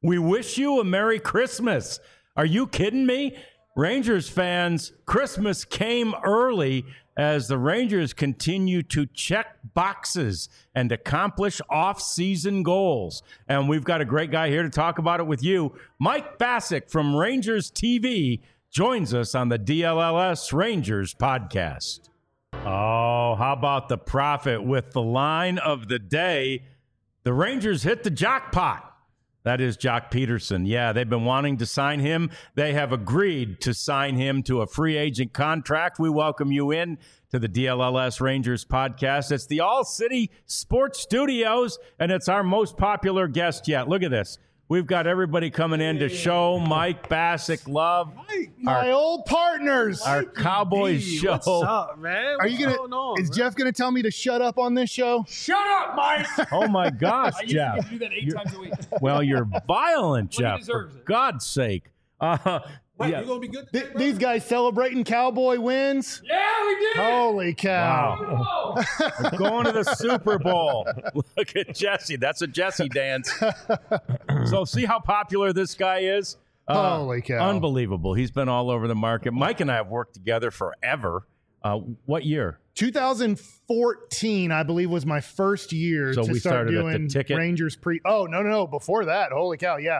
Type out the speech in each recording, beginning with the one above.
We wish you a Merry Christmas. Are you kidding me? Rangers fans, Christmas came early as the Rangers continue to check boxes and accomplish off-season goals. And we've got a great guy here to talk about it with you. Mike Bacsik from Rangers TV joins us on the DLLS Rangers podcast. Oh, how about the Prophet with the line of the day? The Rangers hit the jackpot. That is Jock Peterson. Yeah, they've been wanting to sign him. They have agreed to sign him to a free agent contract. We welcome you in to the DLLS Rangers podcast. It's the All-City Sports Studios, and it's our most popular guest yet. Look at this. We've got everybody coming in to show Mike Bacsik love. My old partners. Our Cowboys show. What's up, man? Are you is Jeff going to tell me to shut up on this show? Shut up, Mike! Oh, my gosh, Jeff. I do that 8 times a week. Well, you're violent, Well, he Jeff, for deserves it. God's sake. Wait, Yeah. you going to be good today, bro? These guys celebrating Cowboy wins? Yeah, we did! Holy cow. Wow. We're going to the Super Bowl. Look at Jesse. That's a Jesse dance. So see how popular this guy is? Holy cow. Unbelievable. He's been all over the market. Mike and I have worked together forever. What year? 2014, I believe, was my first year So to we start started at the doing ticket? Rangers pre. Oh, no. Before that. Holy cow. Yeah.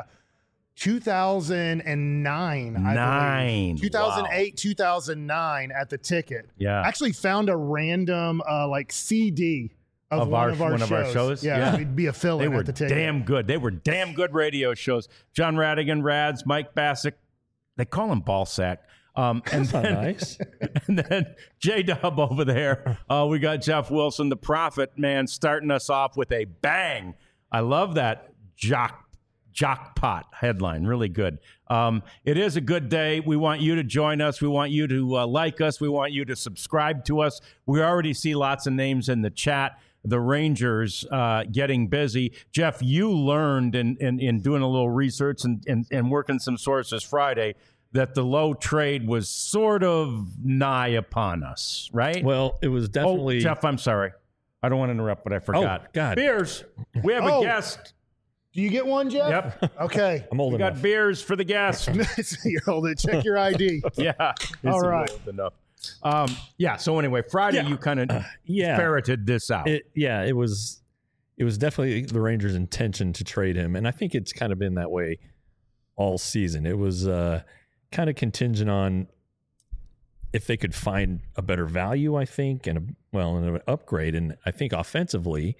2009. I believe. 2008, 2009 at the ticket. Yeah. Actually found a random CD of one of our shows. Yeah, we'd be a They fill-in were at the ticket. damn good. They were damn good radio shows. John Radigan, Rads, Mike Bacsik. They call him Ballsack. And then, Nice. And then J-Dub over there. We got Jeff Wilson, the Prophet, man, starting us off with a bang. I love that Jockpot headline. Really good. It is a good day. We want you to join us. We want you to like us. We want you to subscribe to us. We already see lots of names in the chat. The Rangers getting busy. Jeff, you learned in doing a little research and working some sources Friday that the Lowe trade was sort of nigh upon us, right? Well, it was definitely. Oh, Jeff, I'm sorry. I don't want to interrupt, but I forgot. Oh, God. Beers. We have a guest. Do you get one, Jeff? Yep. Okay. I'm old We got enough. beers for the guest. You're old. Check your ID. Yeah. All right. Enough. So anyway, Friday you kind of ferreted this out. It was definitely the Rangers' intention to trade him, and I think it's kind of been that way all season. It was kind of contingent on if they could find a better value, I think, and an upgrade. And I think offensively,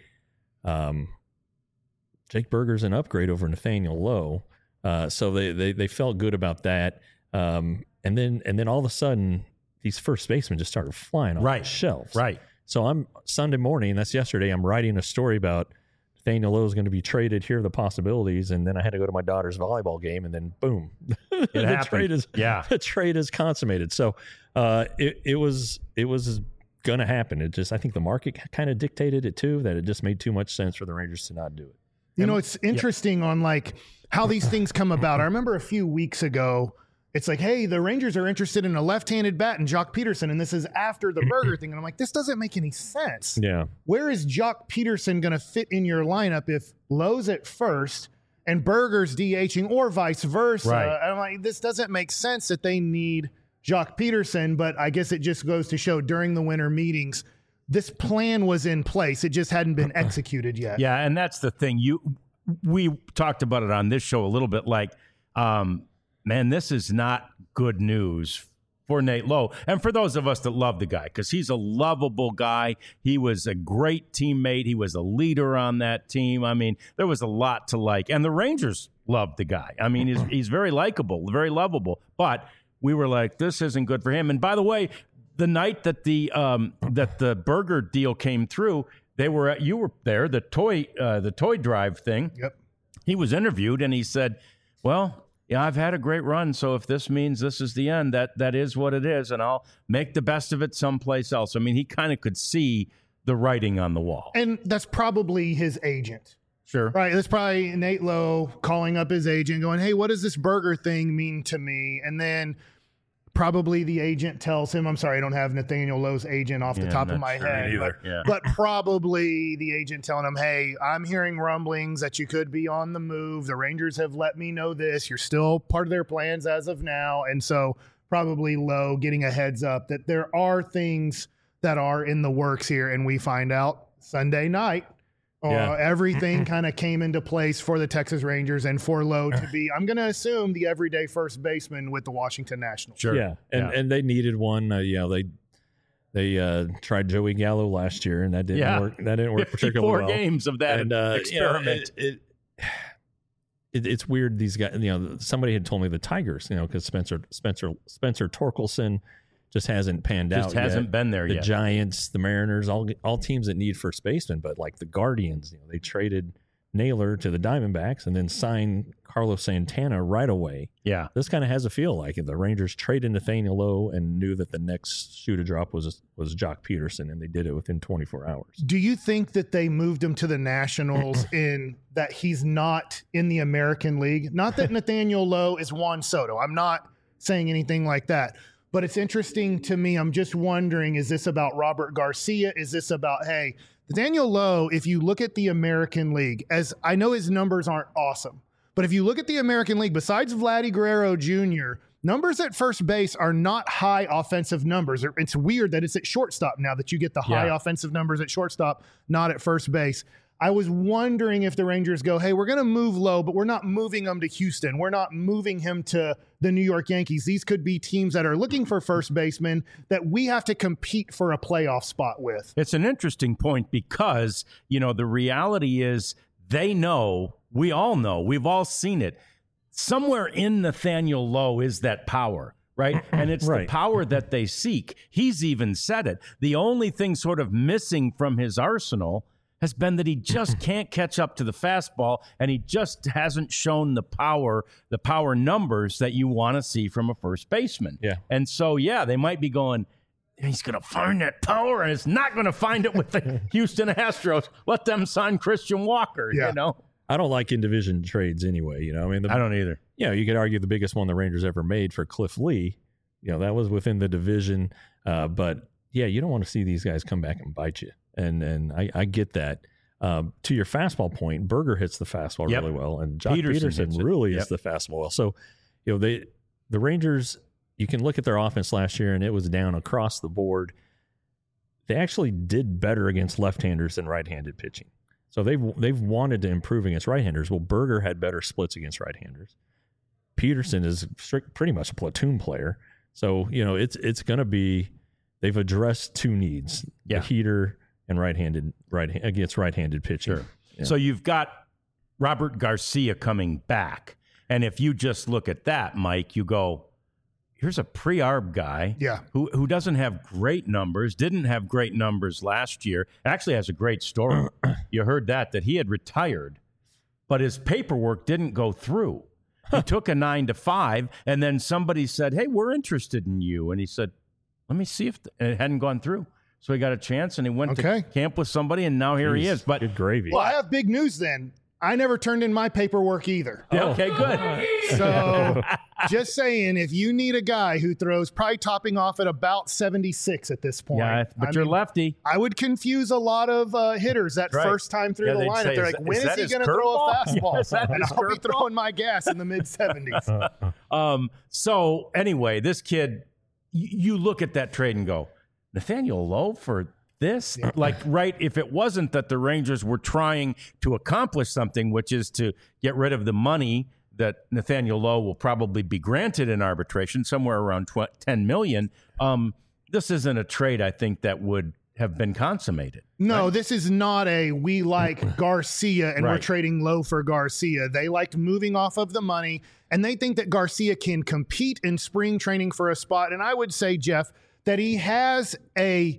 Jake Burger's an upgrade over Nathaniel Lowe, so they felt good about that. And then all of a sudden, these first basemen just started flying off the shelves. Right. So I'm Sunday morning, that's yesterday, I'm writing a story about Nathaniel Lowe is going to be traded. Here are the possibilities. And then I had to go to my daughter's volleyball game, and then boom, the trade is consummated. So it was going to happen. I think the market kind of dictated it too, that it just made too much sense for the Rangers to not do it. You know, it's interesting on like how these things come about. I remember a few weeks ago, it's like, hey, the Rangers are interested in a left-handed bat and Jock Peterson, and this is after the Burger thing. And I'm like, this doesn't make any sense. Yeah. Where is Jock Peterson going to fit in your lineup if Lowe's at first and Burger's DHing or vice versa? Right. I'm like, this doesn't make sense that they need Jock Peterson, but I guess it just goes to show during the winter meetings, this plan was in place. It just hadn't been executed yet. Yeah, and that's the thing. We talked about it on this show a little bit, like, man, this is not good news for Nate Lowe. And for those of us that love the guy, because he's a lovable guy. He was a great teammate. He was a leader on that team. I mean, there was a lot to like. And the Rangers loved the guy. I mean, he's very likable, very lovable. But we were like, this isn't good for him. And by the way, the night that the Burger deal came through, you were there, the toy drive thing. Yep. He was interviewed and he said, well, yeah, I've had a great run, so if this means this is the end, that is what it is, and I'll make the best of it someplace else. I mean, he kind of could see the writing on the wall. And that's probably his agent. Sure. Right. That's probably Nate Lowe calling up his agent going, hey, what does this Burger thing mean to me? And then Probably the agent tells him, I'm sorry, I don't have Nathaniel Lowe's agent off the top of my head, but probably the agent telling him, hey, I'm hearing rumblings that you could be on the move. The Rangers have let me know this. You're still part of their plans as of now. And so probably Lowe getting a heads up that there are things that are in the works here. And we find out Sunday night. Everything kind of came into place for the Texas Rangers and for Lowe to be, I'm going to assume, the everyday first baseman with the Washington Nationals. Sure. Yeah. And they needed one. They tried Joey Gallo last year, and that didn't work. That didn't work particularly well. 4 games of that experiment. It's weird. These guys, somebody had told me the Tigers, because Spencer Torkelson just hasn't panned out. Just hasn't been there yet. The Giants, the Mariners, all teams that need first baseman, but like the Guardians, they traded Naylor to the Diamondbacks and then signed Carlos Santana right away. Yeah. This kind of has a feel like it. The Rangers traded Nathaniel Lowe and knew that the next shoe to drop was Jock Peterson, and they did it within 24 hours. Do you think that they moved him to the Nationals in that he's not in the American League? Not that Nathaniel Lowe is Juan Soto. I'm not saying anything like that. But it's interesting to me. I'm just wondering, is this about Robert Garcia? Is this about, hey, Nathaniel Lowe, if you look at the American League, as I know his numbers aren't awesome, but if you look at the American League, besides Vladdy Guerrero Jr., numbers at first base are not high offensive numbers. It's weird that it's at shortstop now that you get the high offensive numbers at shortstop, not at first base. I was wondering if the Rangers go, hey, we're going to move Lowe, but we're not moving him to Houston. We're not moving him to the New York Yankees. These could be teams that are looking for first basemen that we have to compete for a playoff spot with. It's an interesting point because, the reality is they know, we all know, we've all seen it. Somewhere in Nathaniel Lowe is that power. Right. And it's the power that they seek. He's even said it. The only thing sort of missing from his arsenal has been that he just can't catch up to the fastball, and he just hasn't shown the power numbers that you want to see from a first baseman. Yeah. And so, they might be going, he's going to find that power, and it's not going to find it with the Houston Astros. Let them sign Christian Walker, I don't like in-division trades anyway, I don't either. You could argue the biggest one the Rangers ever made for Cliff Lee, that was within the division. But, you don't want to see these guys come back and bite you. And I get that. To your fastball point, Berger hits the fastball really well, and Jock Peterson really hits the fastball well. So, the Rangers, you can look at their offense last year, and it was down across the board. They actually did better against left-handers than right-handed pitching. So they've wanted to improve against right-handers. Well, Berger had better splits against right-handers. Peterson is pretty much a platoon player. So, it's going to be, they've addressed two needs, the heater and against right-handed pitching. Sure. Yeah. So you've got Robert Garcia coming back. And if you just look at that, Mike, you go, here's a pre-arb guy who doesn't have great numbers, didn't have great numbers last year, actually has a great story. You heard that he had retired, but his paperwork didn't go through. He took a 9-to-5, and then somebody said, hey, we're interested in you. And he said, let me see if and it hadn't gone through. So he got a chance, and he went to camp with somebody, and now here he is. But good gravy. Well, I have big news then. I never turned in my paperwork either. Okay, good. So just saying, if you need a guy who throws probably topping off at about 76 at this point. But you're lefty. I would confuse a a lot of hitters that first time through the lineup. They're like, when is he going to throw a fastball? And I'll be throwing my gas in the mid-70s. So anyway, this kid, you look at that trade and go, Nathaniel Lowe for this? If it wasn't that the Rangers were trying to accomplish something, which is to get rid of the money that Nathaniel Lowe will probably be granted in arbitration, somewhere around $10 million, this isn't a trade, I think, that would have been consummated. No, this is not we like Garcia and we're trading Lowe for Garcia. They liked moving off of the money, and they think that Garcia can compete in spring training for a spot. And I would say, Jeff, that he has a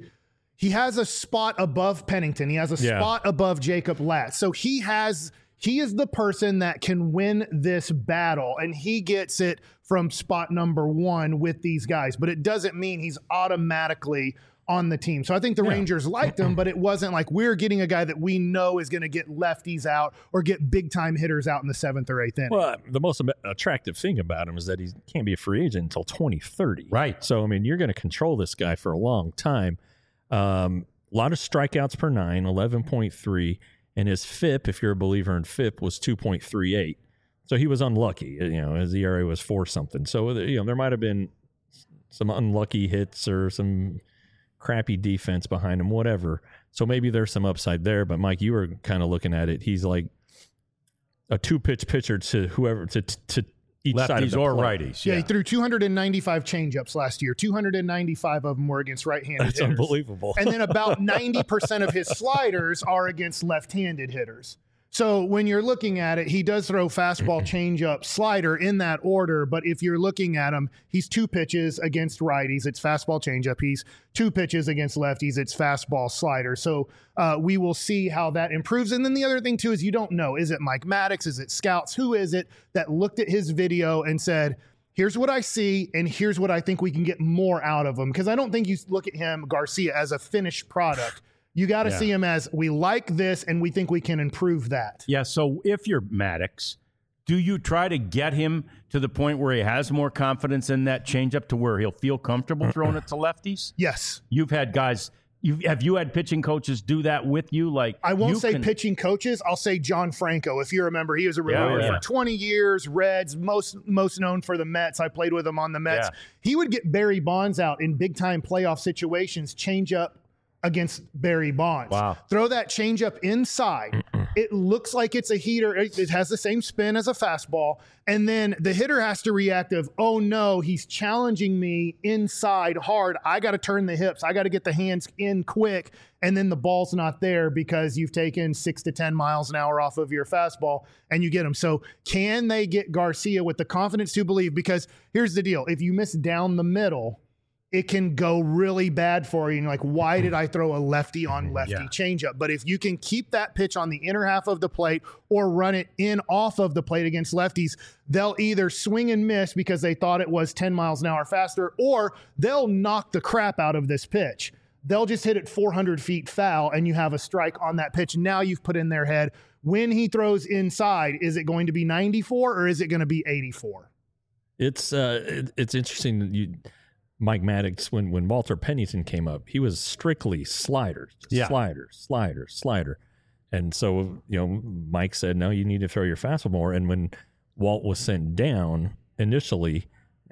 spot above Pennington. He has a spot above Jacob Latz. So he is the person that can win this battle, and he gets it from spot number 1 with these guys. But it doesn't mean he's automatically on the team. So I think the Rangers liked him, but it wasn't like we're getting a guy that we know is going to get lefties out or get big time hitters out in the 7th or 8th inning. Well, the most attractive thing about him is that he can't be a free agent until 2030. Right. So, I mean, you're going to control this guy for a long time. A lot of strikeouts per 9, 11.3. And his FIP, if you're a believer in FIP, was 2.38. So he was unlucky. His ERA was 4 something. So, there might have been some unlucky hits or some crappy defense behind him, whatever. So maybe there's some upside there. But Mike, you were kind of looking at it. He's like a 2-pitch pitcher to whoever to each lefties side of the or plate. righties. Yeah, he threw 295 changeups last year. 295 of them were against right-handed That's hitters. unbelievable. And then about 90% of his sliders are against left-handed hitters. So when you're looking at it, he does throw fastball, changeup, slider in that order. But if you're looking at him, he's 2 pitches against righties. It's fastball, changeup. He's 2 pitches against lefties. It's fastball, slider. So we will see how that improves. And then the other thing, too, is you don't know. Is it Mike Maddox? Is it scouts? Who is it that looked at his video and said, here's what I see, and here's what I think we can get more out of him? Because I don't think you look at him, Garcia, as a finished product. You got to see him as, we like this and we think we can improve that. Yeah, so if you're Maddox, do you try to get him to the point where he has more confidence in that changeup to where he'll feel comfortable throwing it to lefties? Yes. You've had guys, have you had pitching coaches do that with you? Like, I won't say pitching coaches. I'll say John Franco. If you remember, he was a reliever for 20 years, Reds, most known for the Mets. I played with him on the Mets. Yeah. He would get Barry Bonds out in big-time playoff situations, change up against Barry Bonds. Wow. Throw that changeup inside. It looks like it's a heater. It has the same spin as a fastball. And then the hitter has to react of, oh no, he's challenging me inside hard. I got to turn the hips. I got to get the hands in quick. And then the ball's not there because you've taken 6 to 10 miles an hour off of your fastball and you get him. So can they get Garcia with the confidence to believe? Because here's the deal. If you miss down the middle, it can go really bad for you. And like, why did I throw a lefty on lefty changeup? But if you can keep that pitch on the inner half of the plate or run it in off of the plate against lefties, they'll either swing and miss because they thought it was 10 miles an hour faster, or they'll knock the crap out of this pitch. They'll just hit it 400 feet foul and you have a strike on that pitch. Now you've put in their head, when he throws inside, is it going to be 94 or is it going to be 84? It's interesting that Mike Maddox, when Walter Pennington came up, he was strictly sliders, slider. And so, Mike said, no, you need to throw your fastball more. And when Walt was sent down initially,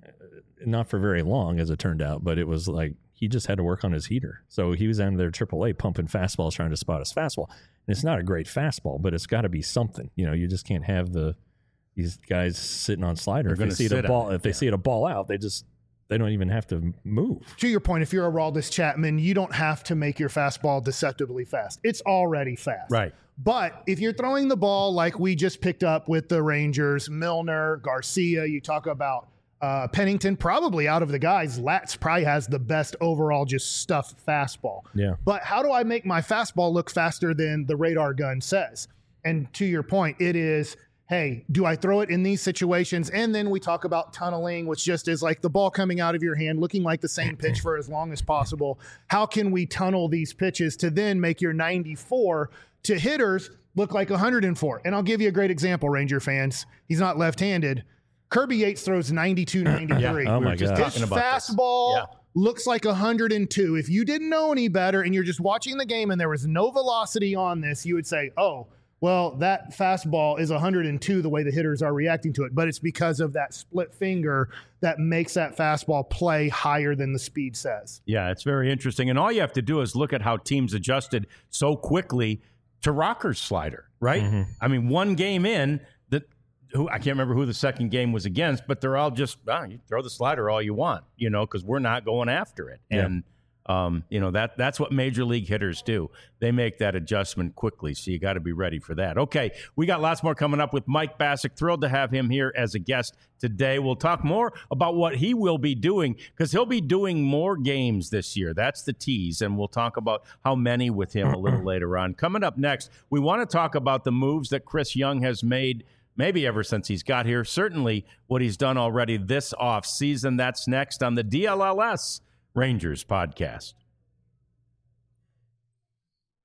not for very long, as it turned out, but it was like he just had to work on his heater. So he was down there AAA pumping fastballs, trying to spot his fastball. And it's not a great fastball, but it's got to be something. You just can't have these guys sitting on slider. If they see it a ball out, they don't even have to move. To your point, if you're a Aroldis Chapman, you don't have to make your fastball deceptively fast. It's already fast. Right. But if you're throwing the ball like we just picked up with the Rangers, Milner, Garcia, you talk about Pennington, probably out of the guys, Latz probably has the best overall just stuffed fastball. Yeah. But how do I make my fastball look faster than the radar gun says? And to your point, it is, hey, do I throw it in these situations? And then we talk about tunneling, which just is like the ball coming out of your hand, looking like the same pitch for as long as possible. How can we tunnel these pitches to then make your 94 to hitters look like 104? And I'll give you a great example, Ranger fans. He's not left-handed. Kirby Yates throws 92, 93. Oh my God. His fastball looks like 102. If you didn't know any better and you're just watching the game and there was no velocity on this, you would say, oh, well, that fastball is 102 the way the hitters are reacting to it. But it's because of that split finger that makes that fastball play higher than the speed says. Yeah, it's very interesting. And all you have to do is look at how teams adjusted so quickly to Rocker's slider, right? Mm-hmm. I mean, one game in, I can't remember who the second game was against, but they're all just, you throw the slider all you want, because we're not going after it. Yeah. And, that's what major league hitters do. They make that adjustment quickly, so you got to be ready for that. Okay, we got lots more coming up with Mike Bacsik. Thrilled to have him here as a guest today. We'll talk more about what he will be doing, because he'll be doing more games this year. That's the tease, and we'll talk about how many with him a little later on. Coming up next, we want to talk about the moves that Chris Young has made maybe ever since he's got here. Certainly what he's done already this offseason. That's next on the DLLS Rangers podcast.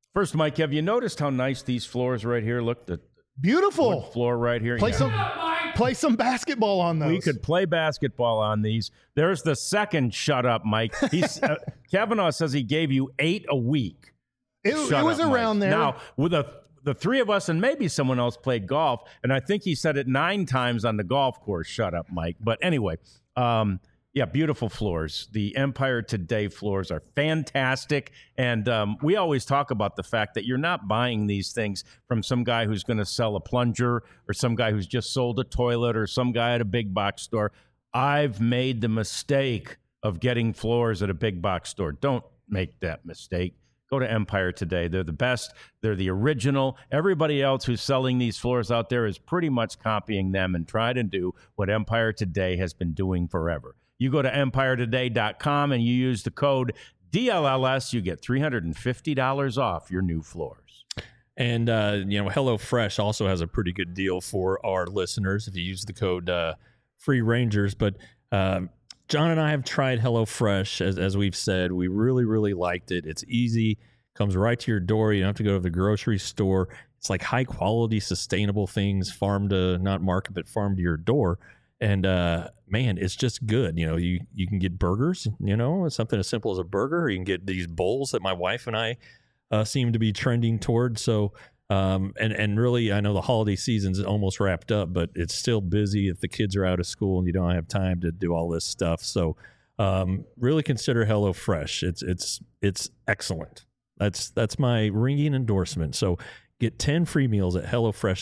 First, Mike, have you noticed how nice these floors right here look? The Beautiful wood floor right here. Play some basketball on those. We could play basketball on these. There's the second shut up, Mike. He's Kavanaugh says he gave you 8 a week. It was around there. Now, with the three of us and maybe someone else played golf, and I think he said it 9 times on the golf course. Shut up, Mike. But anyway, yeah, beautiful floors. The Empire Today floors are fantastic. And we always talk about the fact that you're not buying these things from some guy who's going to sell a plunger or some guy who's just sold a toilet or some guy at a big box store. I've made the mistake of getting floors at a big box store. Don't make that mistake. Go to Empire Today. They're the best. They're the original. Everybody else who's selling these floors out there is pretty much copying them and trying to do what Empire Today has been doing forever. You go to EmpireToday.com and you use the code DLLS, you get $350 off your new floors. And, HelloFresh also has a pretty good deal for our listeners if you use the code Free Rangers. But John and I have tried HelloFresh, as we've said. We really, really liked it. It's easy, comes right to your door. You don't have to go to the grocery store. It's like high-quality, sustainable things, farm to, not market, but farm to your door. And, man, it's just good. You can get burgers, something as simple as a burger. Or you can get these bowls that my wife and I seem to be trending towards. So, and really, I know the holiday season's almost wrapped up, but it's still busy if the kids are out of school and you don't have time to do all this stuff. So, really consider HelloFresh. It's excellent. That's my ringing endorsement. So get 10 free meals at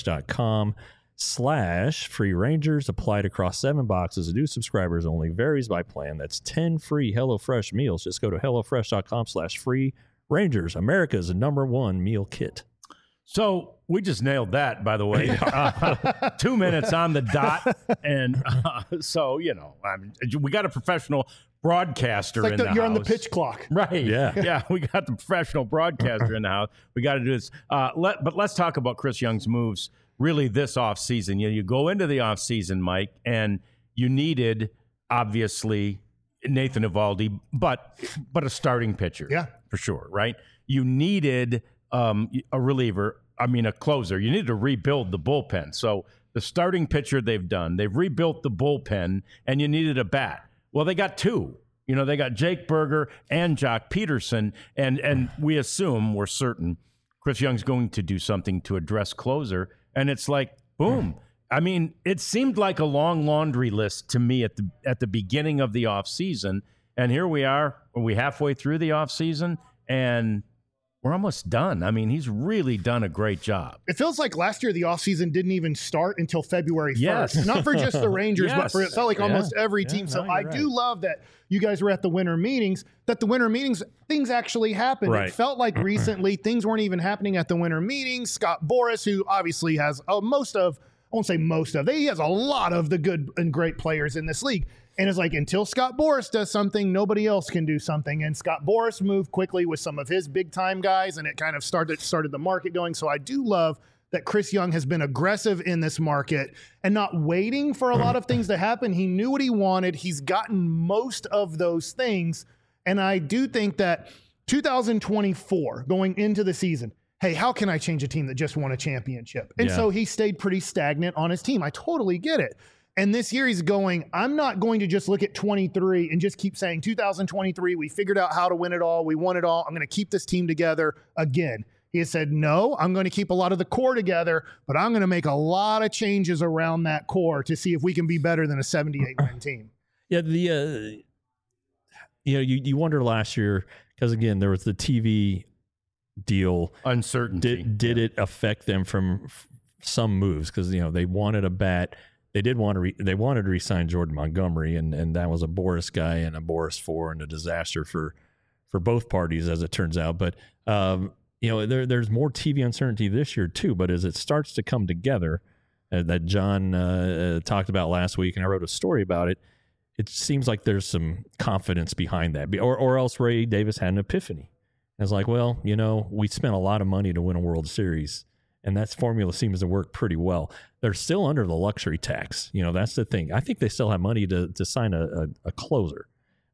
HelloFresh.com/Free Rangers, applied across 7 boxes. New subscribers only, varies by plan. That's 10 free HelloFresh meals. Just go to HelloFresh.com/Free Rangers, America's #1 meal kit. So we just nailed that, by the way. 2 minutes on the dot. And so, we got a professional broadcaster in the house. You're on the pitch clock. Right. Yeah. Yeah, we got the professional broadcaster in the house. We got to do this. But let's talk about Chris Young's moves really this offseason. You go into the offseason, Mike, and you needed, obviously, Nathan Eovaldi, but a starting pitcher. Yeah. For sure, right? You needed a reliever, a closer. You needed to rebuild the bullpen. So the starting pitcher they've done. They've rebuilt the bullpen, and you needed a bat. Well, they got 2. They got Jake Burger and Jock Peterson, and we're certain, Chris Young's going to do something to address closer. And it's like, boom. It seemed like a long laundry list to me at the beginning of the offseason. And here we are. Are we halfway through the offseason? And we're almost done. He's really done a great job. It feels like last year the offseason didn't even start until February 1st. Yes. Not for just the Rangers, but for it felt like almost every team. No, So you're right. do love that you guys were at the winter meetings, things actually happened. Right. It felt like recently things weren't even happening at the winter meetings. Scott Boras, who obviously has he has a lot of the good and great players in this league. And it's like, until Scott Boras does something, nobody else can do something. And Scott Boras moved quickly with some of his big-time guys, and it kind of started the market going. So I do love that Chris Young has been aggressive in this market and not waiting for a lot of things to happen. He knew what he wanted. He's gotten most of those things. And I do think that 2024, going into the season, hey, how can I change a team that just won a championship? And so he stayed pretty stagnant on his team. I totally get it. And this year he's going, I'm not going to just look at 23 and just keep saying 2023, we figured out how to win it all. We won it all. I'm going to keep this team together again. He has said, no, I'm going to keep a lot of the core together, but I'm going to make a lot of changes around that core to see if we can be better than a 78-win team. Yeah, you wonder last year, because again, there was the TV deal. Uncertainty. Did it affect them from some moves? Because, they wanted a bat. They wanted to re-sign Jordan Montgomery, and that was a Boras guy and a Boras 4 and a disaster for both parties, as it turns out. But there's more TV uncertainty this year too. But as it starts to come together, that John talked about last week, and I wrote a story about it, it seems like there's some confidence behind that. Or else Ray Davis had an epiphany. And it's like, well, we spent a lot of money to win a World Series, and that formula seems to work pretty well. They're still under the luxury tax. That's the thing. I think they still have money to sign a closer.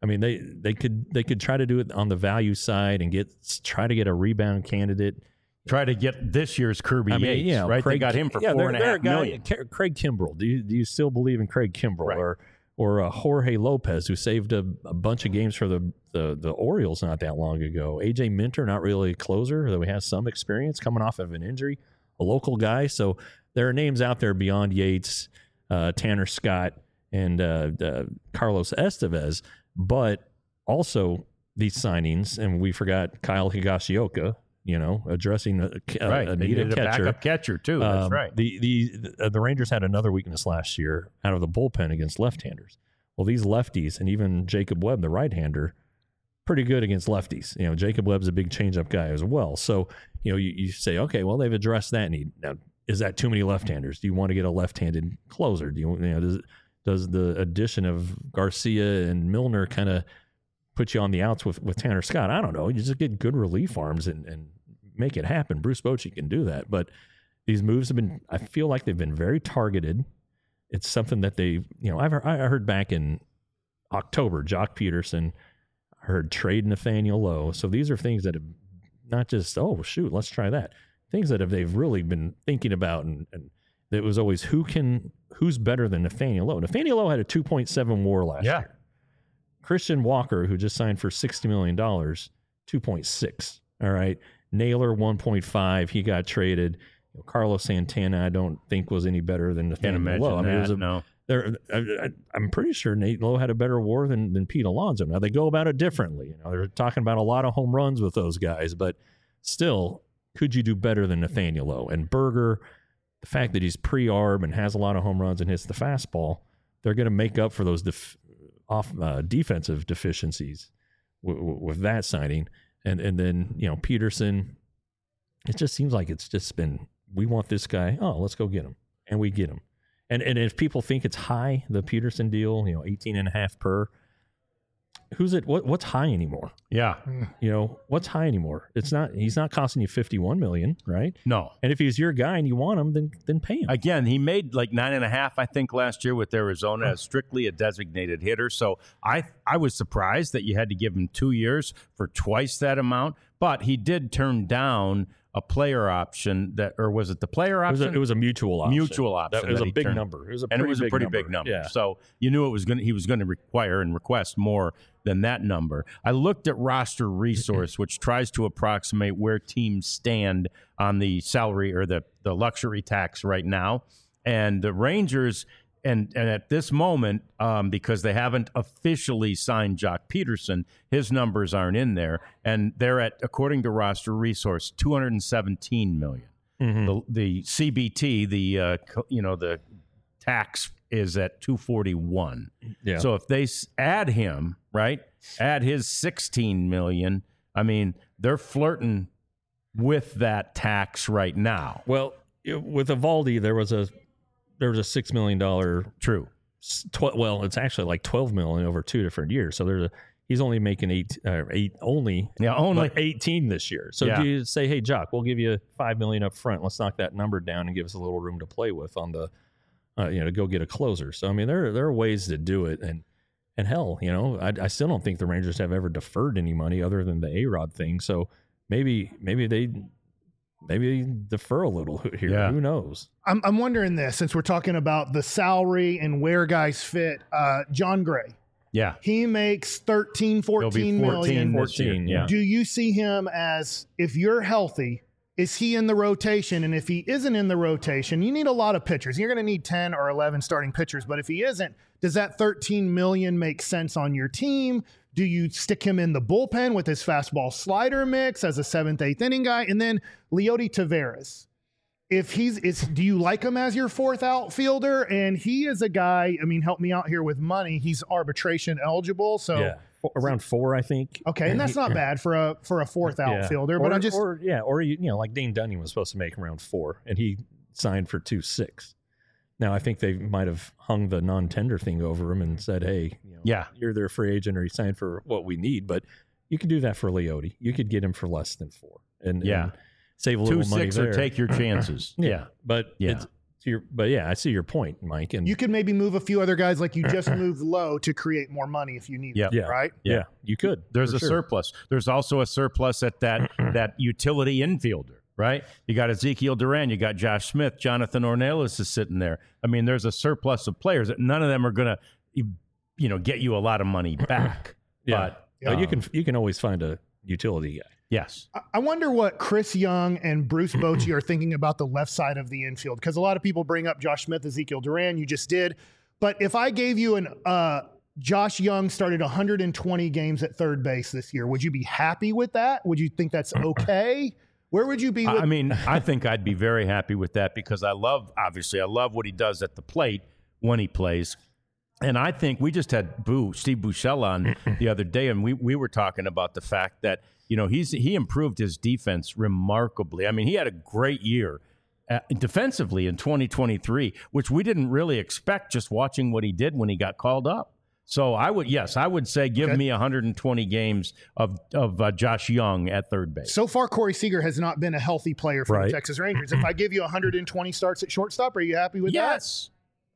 I mean, they could try to do it on the value side and try to get a rebound candidate. Try to get this year's Kirby Yates, right? They got him for $4.5 million. Craig Kimbrell. Do you still believe in Craig Kimbrell, Right. or Jorge Lopez, who saved a bunch of games for the Orioles not that long ago? AJ Minter, not really a closer, though he has some experience coming off of an injury, a local guy. So there are names out there beyond Yates, Tanner Scott, and Carlos Estevez, but also these signings, and we forgot Kyle Higashioka, addressing a They need a needed catcher. backup catcher too. That's right. The Rangers had another weakness last year out of the bullpen against left-handers. Well, these lefties and even Jacob Webb, the right-hander, pretty good against lefties. Jacob Webb's a big changeup guy as well. So, you say, okay, well, they've addressed that need. Now, is that too many left-handers? Do you want to get a left-handed closer? Does the addition of Garcia and Milner kind of put you on the outs with Tanner Scott? I don't know. You just get good relief arms and make it happen. Bruce Bochy can do that. But these moves I feel like they've been very targeted. It's something that I heard back in October, Jock Peterson, I heard trade Nathaniel Lowe. So these are things that have not just, oh, shoot, let's try that. Things that they've really been thinking about. And it was always who's better than Nathaniel Lowe. Nathaniel Lowe had a 2.7 WAR last year. Christian Walker, who just signed for $60 million, 2.6. All right. Naylor, 1.5. He got traded. Carlos Santana, I don't think was any better than Nathaniel Lowe. I mean, I'm pretty sure Nate Lowe had a better WAR than Pete Alonso. Now, they go about it differently. They're talking about a lot of home runs with those guys, but still, could you do better than Nathaniel Lowe? And Berger, the fact that he's pre-arb and has a lot of home runs and hits the fastball, they're going to make up for those defensive deficiencies with that signing. And then, Peterson, it just seems like it's just been, we want this guy. Oh, let's go get him. And we get him. And if people think it's high, the Peterson deal, 18.5 per, what's high anymore? Yeah. What's high anymore? He's not costing you $51 million, right? No. And if he's your guy and you want him, then pay him. Again, he made like 9.5, I think, last year with Arizona as strictly a designated hitter. So I was surprised that you had to give him 2 years for twice that amount, but he did turn down a player option or was it the player option? It was a mutual option. Mutual option. It was a big number. It was a pretty big number. Yeah. So you knew he was going to require and request more than that number. I looked at Roster Resource, which tries to approximate where teams stand on the salary or the luxury tax right now. And the Rangers, and at this moment, because they haven't officially signed Jock Peterson, his numbers aren't in there. And they're at, according to Roster Resource, $217 million. Mm-hmm. The CBT, the tax is at $241. Yeah. So if they add him, right, add his $16 million, I mean, they're flirting with that tax right now. Well, with Eovaldi, there was a $6 million. True. It's actually like $12 million over 2 different years. So he's only making only 18 this year. So if you say, hey, Jock, we'll give you $5 million up front. Let's knock that number down and give us a little room to play with on the, to go get a closer. So I mean, there are ways to do it, and hell, I still don't think the Rangers have ever deferred any money other than the A-Rod thing. So maybe they defer a little here. Yeah. Who knows? I'm wondering this, since we're talking about the salary and where guys fit. John Gray. Yeah. He makes 14 million. 14, yeah. Do you see him as, if you're healthy, is he in the rotation? And if he isn't in the rotation, you need a lot of pitchers. You're going to need 10 or 11 starting pitchers. But if he isn't, does that 13 million make sense on your team? Do you stick him in the bullpen with his fastball slider mix as a 7th, 8th inning guy? And then Leody Taveras, do you like him as your 4th outfielder? And he is a guy, I mean, help me out here with money. He's arbitration eligible. So yeah. Around 4, I think. Okay, and that's not bad for a 4th outfielder. But like Dane Dunning was supposed to make around 4, and he signed for 2.6. Now I think they might have hung the non-tender thing over him and said, "Hey, you're their free agent, or he signed for what we need." But you could do that for Leody. You could get him for less than 4, and save a little money there. 2.6 or take your chances. But it's But yeah, I see your point, Mike. And You could maybe move a few other guys like you just moved Lowe to create more money if you need Yeah. it, yeah, right? yeah, you could. There's for a sure. surplus. There's also a surplus at that utility infielder, right? You got Ezekiel Duran, you got Josh Smith, Jonathan Ornelas is sitting there. I mean, there's a surplus of players that none of them are going to, get you a lot of money back. Yeah. But You can always find a utility guy. yes, I wonder what Chris Young and Bruce Bochy are thinking about the left side of the infield, because a lot of people bring up Josh Smith, Ezekiel Duran. You just did. But if I gave you Josh Young started 120 games at third base this year, would you be happy with that? Would you think that's okay? Where would you be with I mean, I think I'd be very happy with that because I love what he does at the plate when he plays. And I think we just had Steve Buechele on the other day, and we were talking about the fact that, he improved his defense remarkably. I mean, he had a great year defensively in 2023, which we didn't really expect just watching what he did when he got called up. So I would say give me 120 games of Josh Young at third base. So far, Corey Seager has not been a healthy player for Right. the Texas Rangers. If I give you 120 starts at shortstop, are you happy with that? Yes.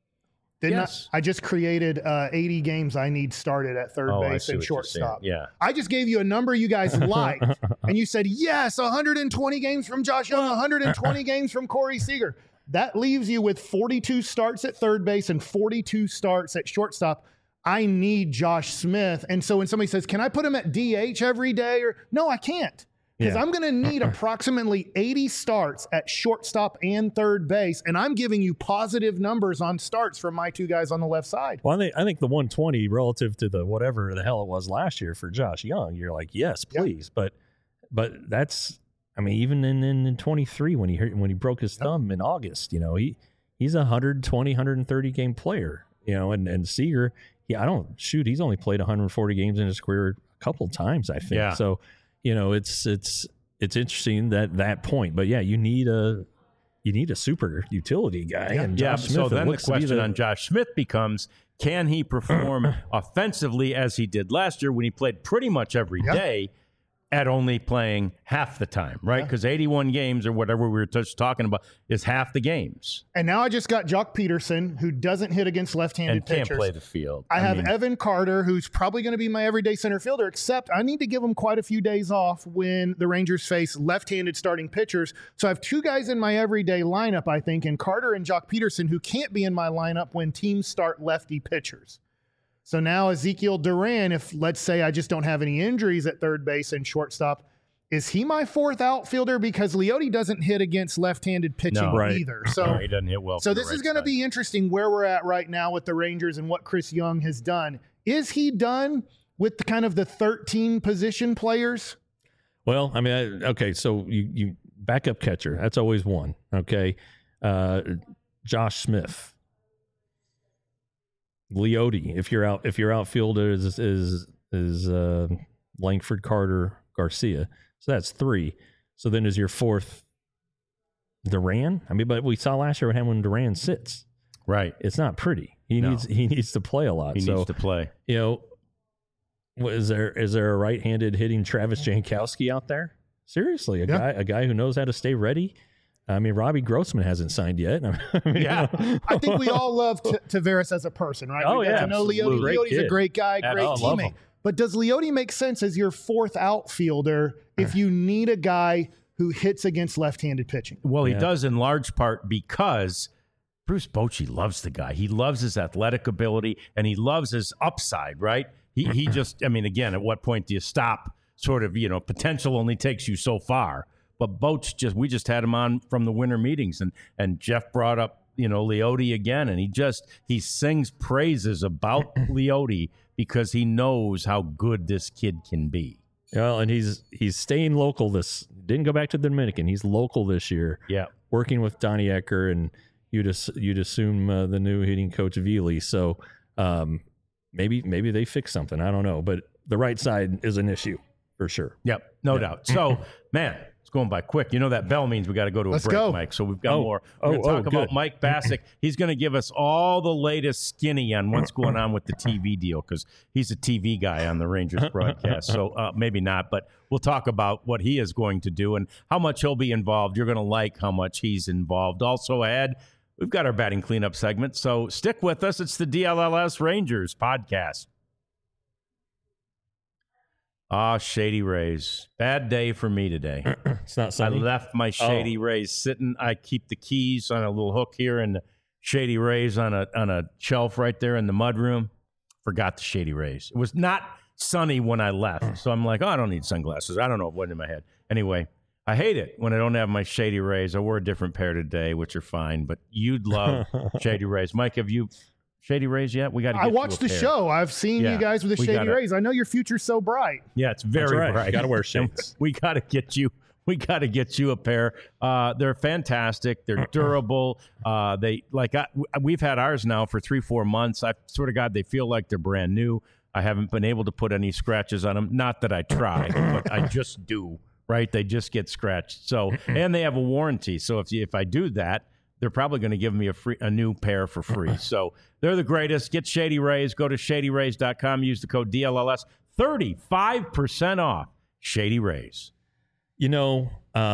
Yes. I just created 80 games I need started at third Oh, I base see and what you're saying. shortstop. Yeah. I just gave you a number you guys liked, and you said, yes, 120 games from Josh Young, 120 games from Corey Seager. That leaves you with 42 starts at third base and 42 starts at shortstop. I need Josh Smith. And so when somebody says, can I put him at DH every day? No, I can't. Because Yeah. I'm going to need approximately 80 starts at shortstop and third base, and I'm giving you positive numbers on starts from my two guys on the left side. Well, I think the 120 relative to the whatever the hell it was last year for Josh Young, you're like, yes, please. But that's, I mean, even in 23 when he broke his thumb in August, he's a 120, 130 game player, and Seager, he's only played 140 games in his career a couple times, I think. Yeah. So, it's interesting that point, but yeah, you need a super utility guy. And Josh Smith, so then the looks to be question on Josh Smith becomes, can he perform offensively as he did last year when he played pretty much every day at only playing half the time, right? Because 81 games or whatever we were just talking about is half the games. And now I just got Jock Peterson, who doesn't hit against left-handed And can't pitchers. play the field. I have mean, Evan Carter, who's probably going to be my everyday center fielder, except I need to give him quite a few days off when the Rangers face left-handed starting pitchers. So I have two guys in my everyday lineup, I think, and Carter and Jock Peterson, who can't be in my lineup when teams start lefty pitchers. So now Ezekiel Duran, if let's say I just don't have any injuries at third base and shortstop, is he my fourth outfielder? Because Leote doesn't hit against left-handed pitching either. So no, he doesn't hit well. So for the this right is going to side. be interesting where we're at right now with the Rangers and what Chris Young has done. Is he done with the kind of the 13 position players? Well, I mean, okay, so you backup catcher, that's always one. Okay, Josh Smith, Leote. If your outfielder is Langford, Carter, Garcia, so that's three. So then is your fourth Duran? I mean, but we saw last year what happened when Duran sits. right. It's not pretty. He needs to play a lot. He needs to play. Is there a right-handed hitting Travis Jankowski out there? Seriously, a guy who knows how to stay ready. I mean, Robbie Grossman hasn't signed yet. I think we all love Tavares as a person, right? Oh, We got yeah, to know Leote. absolutely. Leote's a great guy, great love teammate. him. But does Leote make sense as your fourth outfielder if you need a guy who hits against left-handed pitching? Well, he does in large part because Bruce Bochy loves the guy. He loves his athletic ability and he loves his upside, right? He just, I mean, again, at what point do you stop? Sort of, potential only takes you so far. But Boch we just had him on from the winter meetings, and Jeff brought up, Leote again, and he sings praises about Leote because he knows how good this kid can be. Well, and he's staying local. Didn't go back to the Dominican. He's local this year. Yeah, working with Donnie Ecker, and you'd assume the new hitting coach Veely. So maybe they fix something. I don't know, but the right side is an issue for sure. Yep, no doubt. So, man, it's going by quick. That bell means we got to go to a break, Mike. So we've got more. We're going to talk about Mike Bassick. He's going to give us all the latest skinny on what's going on with the TV deal because he's a TV guy on the Rangers broadcast. So maybe not, but we'll talk about what he is going to do and how much he'll be involved. You're going to like how much he's involved. Also ahead, we've got our batting cleanup segment. So stick with us. It's the DLLS Rangers podcast. Shady Rays. Bad day for me today. It's not sunny. I left my Shady Rays sitting. I keep the keys on a little hook here and the Shady Rays on a shelf right there in the mudroom. Forgot the Shady Rays. It was not sunny when I left. So I'm like, I don't need sunglasses. I don't know what went in my head. Anyway, I hate it when I don't have my Shady Rays. I wore a different pair today, which are fine, but you'd love Shady Rays. Mike, have you Shady Rays yet? We got to. I watched the show. I've seen you guys with the Shady Rays. I know your future's so bright. Yeah, it's very bright. You got to wear shades. We got to get you. We got to get you a pair. They're fantastic. They're durable. We've had ours now for 3-4 months. I swear to God, they feel like they're brand new. I haven't been able to put any scratches on them. Not that I try, but I just do. Right? They just get scratched. So, and they have a warranty. So if I do that, they're probably going to give me a new pair for free. So they're the greatest. Get Shady Rays. Go to shadyrays.com. Use the code DLLS. 35% off Shady Rays. You know,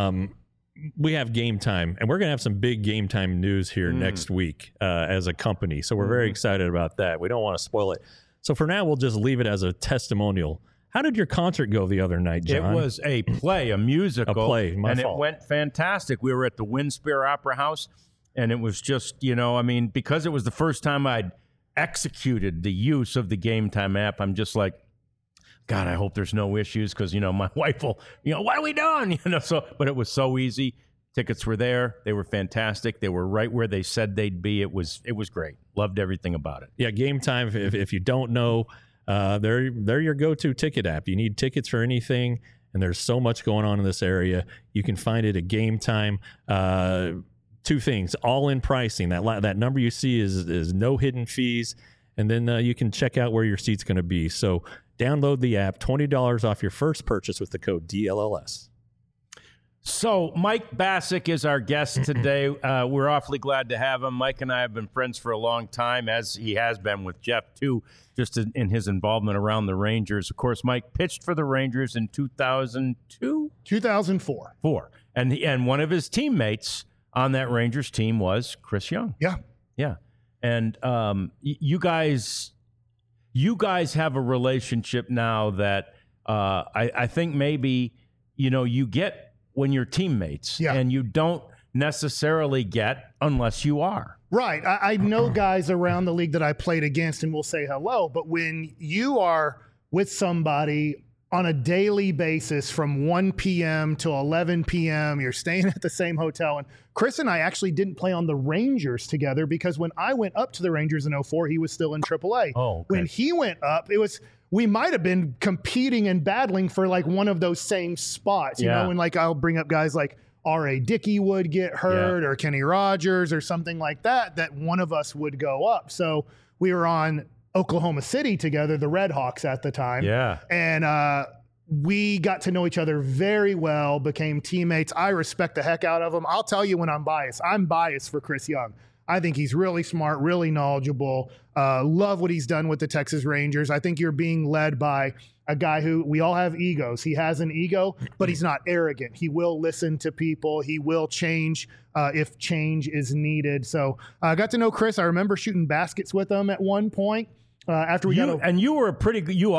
we have Game Time, and we're going to have some big Game Time news here next week as a company. So we're very excited about that. We don't want to spoil it. So for now, we'll just leave it as a testimonial. How did your concert go the other night, John? It was a play, a musical. A play, my and fault. It went fantastic. We were at the Windspear Opera House, and it was just, because it was the first time I'd executed the use of the Game Time app, I'm just like, God, I hope there's no issues because, my wife will, what are we doing? But it was so easy. Tickets were there. They were fantastic. They were right where they said they'd be. It was great. Loved everything about it. Yeah, Game Time, if you don't know, they're your go-to ticket app. You need tickets for anything, and there's so much going on in this area. You can find it at Game Time. Two things, all-in pricing. That number you see is no hidden fees, and then you can check out where your seat's going to be. So download the app, $20 off your first purchase with the code DLLS. So Mike Bassick is our guest today. We're awfully glad to have him. Mike and I have been friends for a long time, as he has been with Jeff, too, just in his involvement around the Rangers. Of course, Mike pitched for the Rangers in 2002? 2004. And one of his teammates on that Rangers team was Chris Young. Yeah. Yeah. And you guys have a relationship now that I think maybe, you get when you're teammates, and you don't necessarily get unless you are. Right. I know guys around the league that I played against and will say hello, but when you are with somebody on a daily basis from 1 p.m. to 11 p.m., you're staying at the same hotel. And Chris and I actually didn't play on the Rangers together because when I went up to the Rangers in 2004, he was still in AAA. Oh, okay. When he went up, we might have been competing and battling for like one of those same spots, you know, and like I'll bring up guys like R.A. Dickey would get hurt or Kenny Rogers or something like that one of us would go up. So we were on Oklahoma City together, the Red Hawks at the time. Yeah. And we got to know each other very well, became teammates. I respect the heck out of him. I'll tell you when I'm biased. I'm biased for Chris Young. I think he's really smart, really knowledgeable. Love what he's done with the Texas Rangers. I think you're being led by a guy who, we all have egos. He has an ego, but he's not arrogant. He will listen to people. He will change if change is needed. So I got to know Chris. I remember shooting baskets with him at one point. After we you were a pretty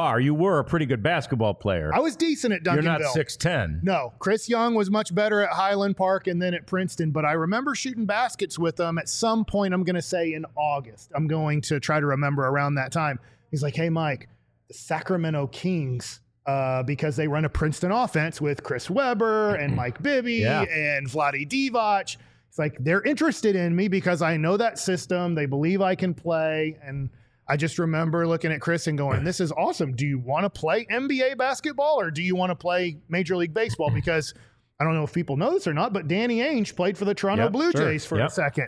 good basketball player. I was decent at Duncanville. You're not 6'10". No, Chris Young was much better at Highland Park and then at Princeton. But I remember shooting baskets with him at some point. I'm going to say in August. I'm going to try to remember around that time. He's like, "Hey, Mike, the Sacramento Kings." Because they run a Princeton offense with Chris Webber and Mike Bibby and Vlade Divac. It's like they're interested in me because I know that system. They believe I can play and. I just remember looking at Chris and going, this is awesome. Do you want to play NBA basketball or do you want to play Major League Baseball? Because I don't know if people know this or not, but Danny Ainge played for the Toronto Blue Jays for a second.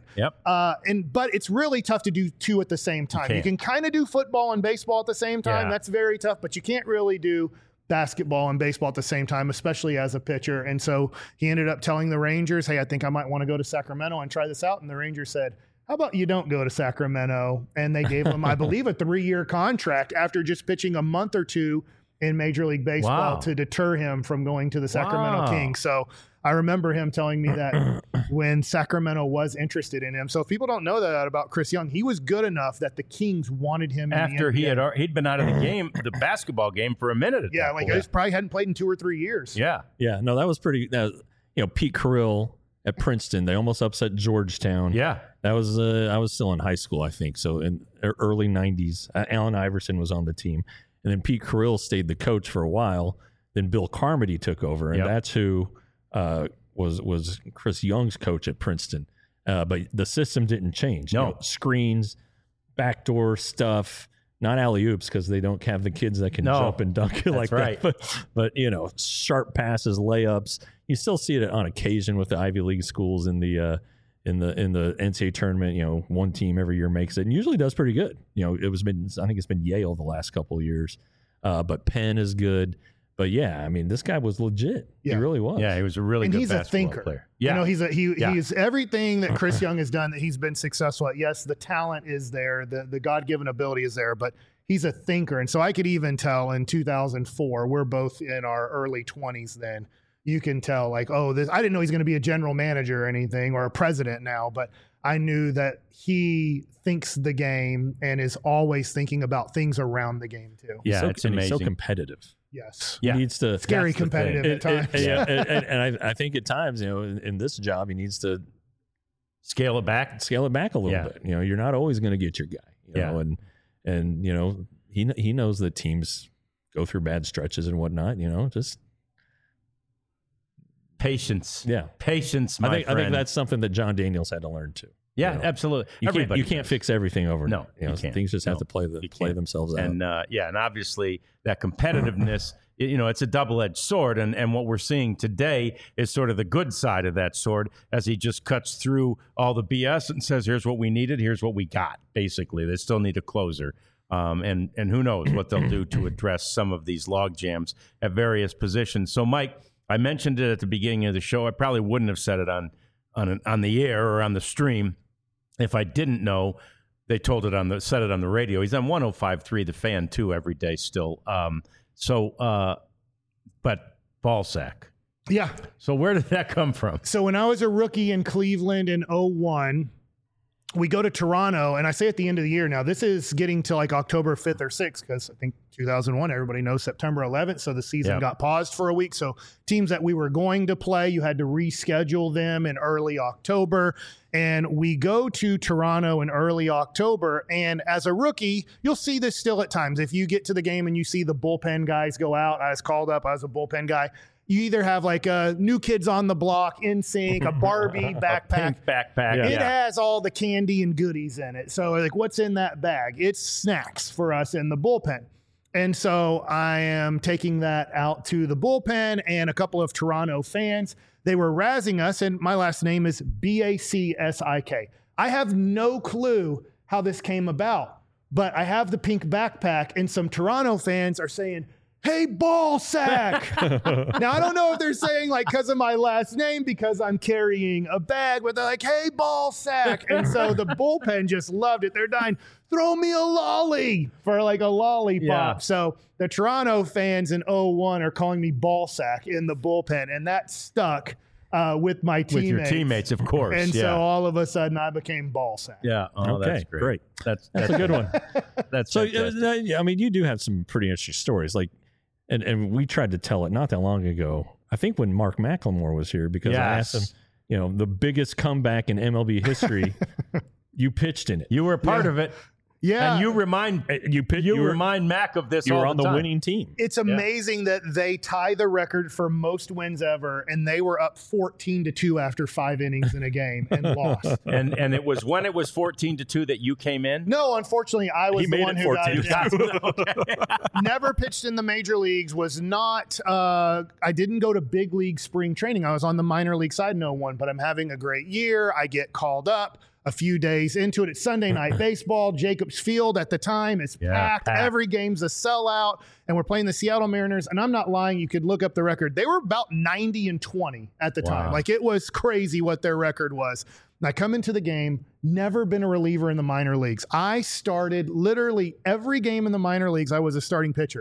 But it's really tough to do two at the same time. You can kind of do football and baseball at the same time. That's very tough, but you can't really do basketball and baseball at the same time, especially as a pitcher. And so he ended up telling the Rangers, hey, I think I might want to go to Sacramento and try this out. And the Rangers said, how about you don't go to Sacramento? And they gave him, I believe, a 3-year contract after just pitching a month or two in Major League Baseball to deter him from going to the Sacramento Kings. So I remember him telling me that when Sacramento was interested in him. So if people don't know that about Chris Young, he was good enough that the Kings wanted him After in the NBA. he'd been out of the game, the basketball game, for a minute. At Yeah, that like point. he probably hadn't played in 2 or 3 years. Yeah. Yeah, no, that was pretty. Pete Carrill at Princeton, they almost upset Georgetown. Yeah. That was I was still in high school, I think. So in early '90s, Allen Iverson was on the team, and then Pete Carrill stayed the coach for a while. Then Bill Carmody took over, and that's who was Chris Young's coach at Princeton. But the system didn't change. No. You know, screens, backdoor stuff. Not alley oops because they don't have the kids that can jump and dunk it like right. that. But sharp passes, layups. You still see it on occasion with the Ivy League schools in the NCAA tournament. One team every year makes it and usually does pretty good. I think it's been Yale the last couple of years, but Penn is good. But yeah, I mean, this guy was legit. Yeah. He really was. Yeah, he was a really good he's a basketball thinker. player. Yeah. He's everything that Chris Young has done that he's been successful at. Yes, the talent is there, the God-given ability is there, but he's a thinker. And so I could even tell in 2004, we're both in our early 20s then. You can tell I didn't know he's going to be a general manager or anything or a president now, but I knew that he thinks the game and is always thinking about things around the game too. Yeah, so, it's and amazing. He's so competitive. Yes. Yeah. He needs to Scary That's the competitive thing. at times. and I think at times, in this job, he needs to Scale it back. scale it back a little bit. You're not always going to get your guy. And he knows that teams go through bad stretches and whatnot. Just Patience. yeah. Patience, I my think friend. that's something that John Daniels had to learn too. Yeah, absolutely. You can't fix everything overnight. No, you can't. Things just have No, to play you play can't. themselves out. And and obviously that competitiveness, it's a double-edged sword. And what we're seeing today is sort of the good side of that sword as he just cuts through all the BS and says, here's what we needed, here's what we got, basically. They still need a closer. And who knows what they'll do to address some of these log jams at various positions. So, Mike, I mentioned it at the beginning of the show. I probably wouldn't have said it on the air or on the stream if I didn't know. They said it on the radio. He's on 105.3 The Fan too every day still. But ball sack. Yeah. So where did that come from? So when I was a rookie in Cleveland in 2001, we go to Toronto, and I say at the end of the year now, this is getting to like October 5th or 6th, because I think 2001, everybody knows September 11th, so the season got paused for a week. So teams that we were going to play, you had to reschedule them in early October. And we go to Toronto in early October, and as a rookie, you'll see this still at times. If you get to the game and you see the bullpen guys go out, I was called up, I was a bullpen guy. You either have like a New Kids on the Block, NSYNC, a Barbie backpack. Pink backpack. It has all the candy and goodies in it. So like, what's in that bag? It's snacks for us in the bullpen. And so I am taking that out to the bullpen, and a couple of Toronto fans, they were razzing us, and my last name is Bacsik. I have no clue how this came about, but I have the pink backpack, and some Toronto fans are saying, "Hey, ball sack." Now, I don't know if they're saying like because of my last name, because I'm carrying a bag, but they're like, "Hey, ball sack." And so the bullpen just loved it. They're dying, "Throw me a lolly," for like a lollipop. Yeah. So the Toronto fans in 2001 are calling me ball sack in the bullpen, and that stuck with my teammates. With your teammates, of course. And so all of a sudden I became ball sack. Yeah. Oh, Okay, that's great. That's That's a good one. That's So, fantastic. I mean, you do have some pretty interesting stories. Like, and we tried to tell it not that long ago. I think when Mark McLemore was here, because I asked him, the biggest comeback in MLB history, you pitched in it. You were a part of it. Yeah. And you remind Mac of this You all were the on the time. winning team. It's amazing that they tie the record for most wins ever, and they were up 14-2 after 5 innings in a game and lost. And it was when it was 14-2 that you came in? No, unfortunately, I was He the made one it who got 14-2. it. Never pitched in the major leagues, was not, I didn't go to big league spring training. I was on the minor league side in 2001, but I'm having a great year. I get called up a few days into it. It's Sunday Night Baseball. Jacobs Field at the time is packed. Every game's a sellout, and we're playing the Seattle Mariners. And I'm not lying. You could look up the record. They were about 90-20 at the time. Like, it was crazy what their record was. And I come into the game, never been a reliever in the minor leagues. I started literally every game in the minor leagues. I was a starting pitcher.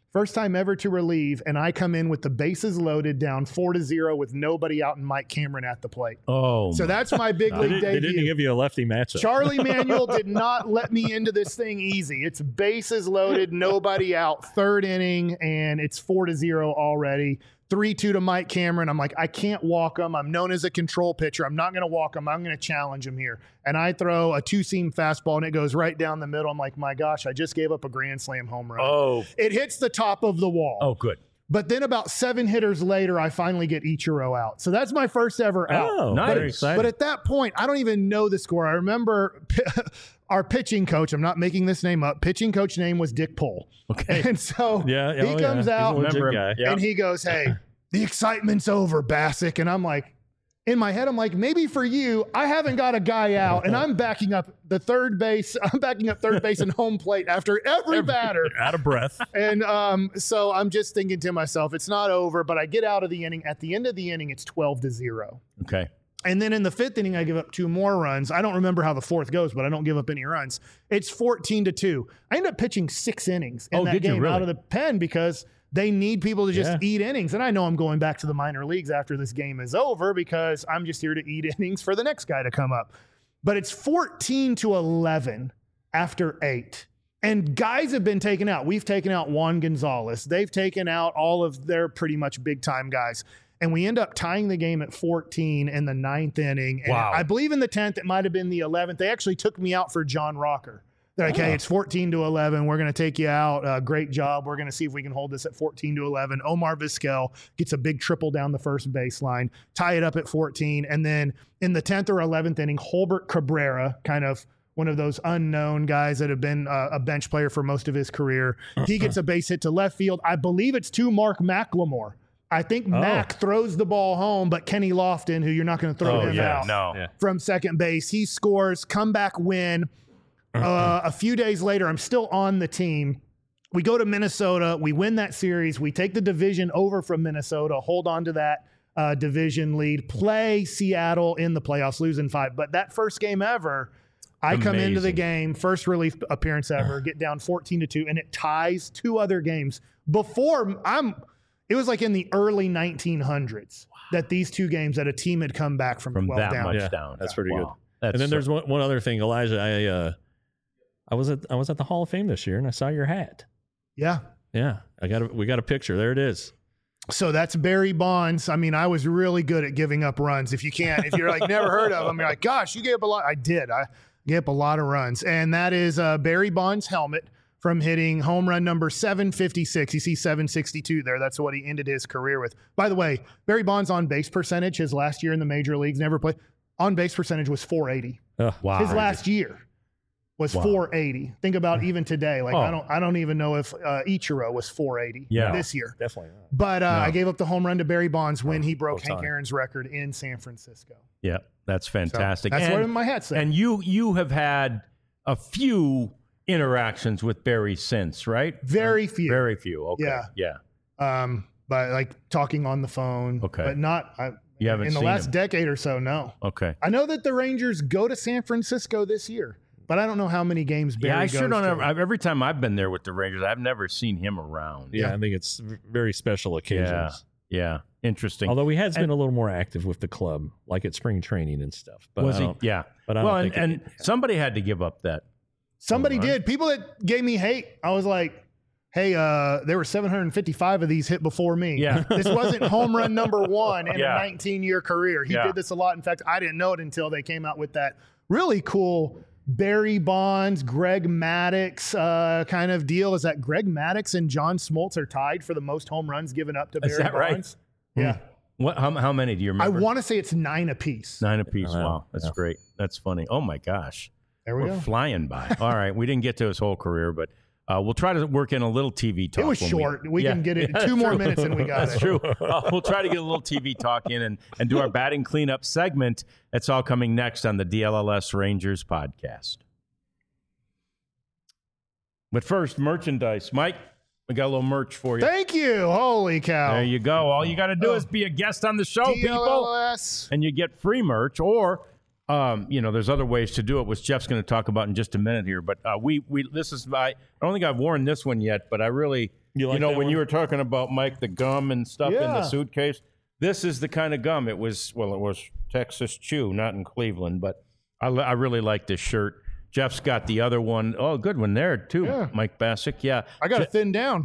First time ever to relieve, and I come in with the bases loaded, down 4-0 with nobody out and Mike Cameron at the plate. Oh, So that's my big league They didn't debut. give you a lefty matchup. Charlie Manuel did not let me into this thing easy. It's bases loaded, nobody out, third inning, and it's 4-0 already. 3-2 to Mike Cameron. I'm like, I can't walk him. I'm known as a control pitcher. I'm not going to walk him. I'm going to challenge him here. And I throw a two-seam fastball, and it goes right down the middle. I'm like, my gosh, I just gave up a grand slam home run. Oh, It hits the top of the wall. oh, good. But then about 7 hitters later, I finally get Ichiro out. So that's my first ever out. Oh, Nice. very exciting. But at that point, I don't even know the score. I remember our pitching coach, I'm not making this name up, pitching coach name was Dick Pohl. Okay. And so yeah, he comes out He's a legit Remember him. guy. Yeah. and he goes, hey, the excitement's over, Bassick. And I'm like, in my head, I'm like, maybe for you, I haven't got a guy out, and I'm backing up third base and home plate after every batter. Out of breath. And so I'm just thinking to myself, it's not over, but I get out of the inning. At the end of the inning, it's 12-0. Okay. And then in the 5th inning, I give up 2 more runs. I don't remember how the 4th goes, but I don't give up any runs. It's 14-2. I end up pitching 6 innings in that did you game really? out of the pen because they need people to just Yeah. eat innings. And I know I'm going back to the minor leagues after this game is over because I'm just here to eat innings for the next guy to come up. But it's 14-11 after 8. And guys have been taken out. We've taken out Juan Gonzalez. They've taken out all of their pretty much big-time guys. And we end up tying the game at 14 in the 9th inning. And Wow. I believe in the 10th, it might have been the 11th. They actually took me out for John Rocker. They're like, hey, it's 14-11. We're going to take you out. Great job. We're going to see if we can hold this at 14-11. Omar Vizquel gets a big triple down the first baseline, tie it up at 14. And then in the 10th or 11th inning, Holbert Cabrera, kind of one of those unknown guys that have been a bench player for most of his career, he gets a base hit to left field. I believe it's to Mark McLemore. I think Mac throws the ball home, but Kenny Lofton, who you're not going to throw him out No. from second base, he scores, comeback win. A few days later, I'm still on the team. We go to Minnesota. We win that series. We take the division over from Minnesota, hold on to that division lead, play Seattle in the playoffs, losing 5. But that first game ever, I come into the Amazing. game, first relief appearance ever, get down 14-2, and it ties 2 other games. It was like in the early 1900s that these 2 games that a team had come back from 12 that down. much Yeah, down. that's pretty Wow. good. And then there's one other thing, Elijah. I was at the Hall of Fame this year, and I saw your hat. Yeah. Yeah, we got a picture. There it is. So that's Barry Bonds. I mean, I was really good at giving up runs. If you're like never heard of him, you're like, gosh, you gave up a lot. I did. I gave up a lot of runs. And that is Barry Bonds' helmet from hitting home run number 756. You see 762 there. That's what he ended his career with. By the way, Barry Bonds' on base percentage, his last year in the major leagues, never played. On base percentage was 480. Wow. His last year was 480. Think about even today. Like I don't even know if Ichiro was 480 this year. Definitely not. But I gave up the home run to Barry Bonds when he broke Well Hank Aaron's record in San Francisco. Yeah, that's fantastic. That's and, what my hat said. And you have had a few interactions with Barry since, right? Very few. Very few. Okay. Yeah. Yeah. But like talking on the phone. Okay. But not You haven't in the seen last him. decade or so. No. Okay. I know that the Rangers go to San Francisco this year, but I don't know how many games Barry Yeah, I goes sure don't. to. Every time I've been there with the Rangers, I've never seen him around. Yeah, I think it's very special occasions. Yeah. Interesting. Although he has been a little more active with the club, like at spring training and stuff. But Was I he? don't- Yeah. But I well, don't and, think and somebody had to give up that. Somebody All right. did. People that gave me hate, I was like, hey, there were 755 of these hit before me. Yeah. This wasn't home run number 1 in Yeah. a 19-year career. He Yeah. did this a lot. In fact, I didn't know it until they came out with that really cool Barry Bonds, Greg Maddux kind of deal. Is that Greg Maddux and John Smoltz are tied for the most home runs given up to Is Barry that right? Bonds? Yeah. What? How many do you I remember? want to say it's 9 apiece. 9 apiece. Wow. Wow. That's great. That's funny. Oh my gosh. There we We're go. flying by. All right. We didn't get to his whole career, but we'll try to work in a little TV talk. It was when short. We Yeah. can get it Yeah, 2 more true. minutes and we got That's it. true. We'll try to get a little TV talk in and do our batting cleanup segment. That's all coming next on the DLLS Rangers podcast. But first, merchandise. Mike, we got a little merch for you. Thank you. Holy cow. There you go. All you got to do is be a guest on the show, people. DLLS. And you get free merch, or there's other ways to do it, which Jeff's going to talk about in just a minute here. But I don't think I've worn this one yet, but I really, when you were talking about, Mike, the gum and stuff in the suitcase, this is the kind of gum. It was Texas Chew, not in Cleveland, but I really like this shirt. Jeff's got the other one. Oh, good one there too, Mike Bassick. Yeah, I got to thin down.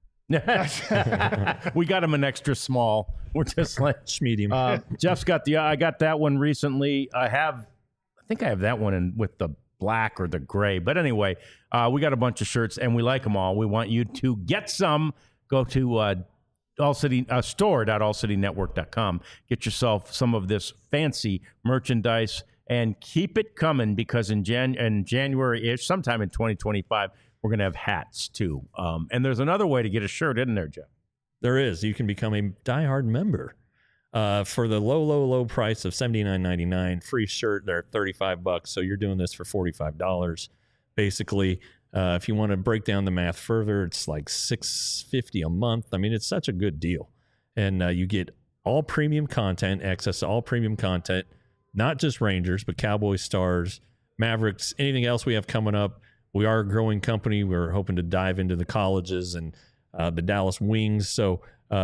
We got him an extra small. We're just like medium. Jeff's got I got that one recently. I think I have that one with the black or the gray. But anyway, we got a bunch of shirts and we like them all. We want you to get some. Go to store.allcitynetwork.com. Get yourself some of this fancy merchandise and keep it coming, because in January-ish, sometime in 2025, we're going to have hats too. And there's another way to get a shirt, isn't there, Jeff? There is. You can become a diehard member for the low price of $79.99. Free shirt there at $35. So you're doing this for $45. Basically, if you want to break down the math further, it's like $6.50 a month. I mean, it's such a good deal. And you get all premium content, access to all premium content, not just Rangers, but Cowboys, Stars, Mavericks, anything else we have coming up. We are a growing company. We're hoping to dive into the colleges and the Dallas Wings. So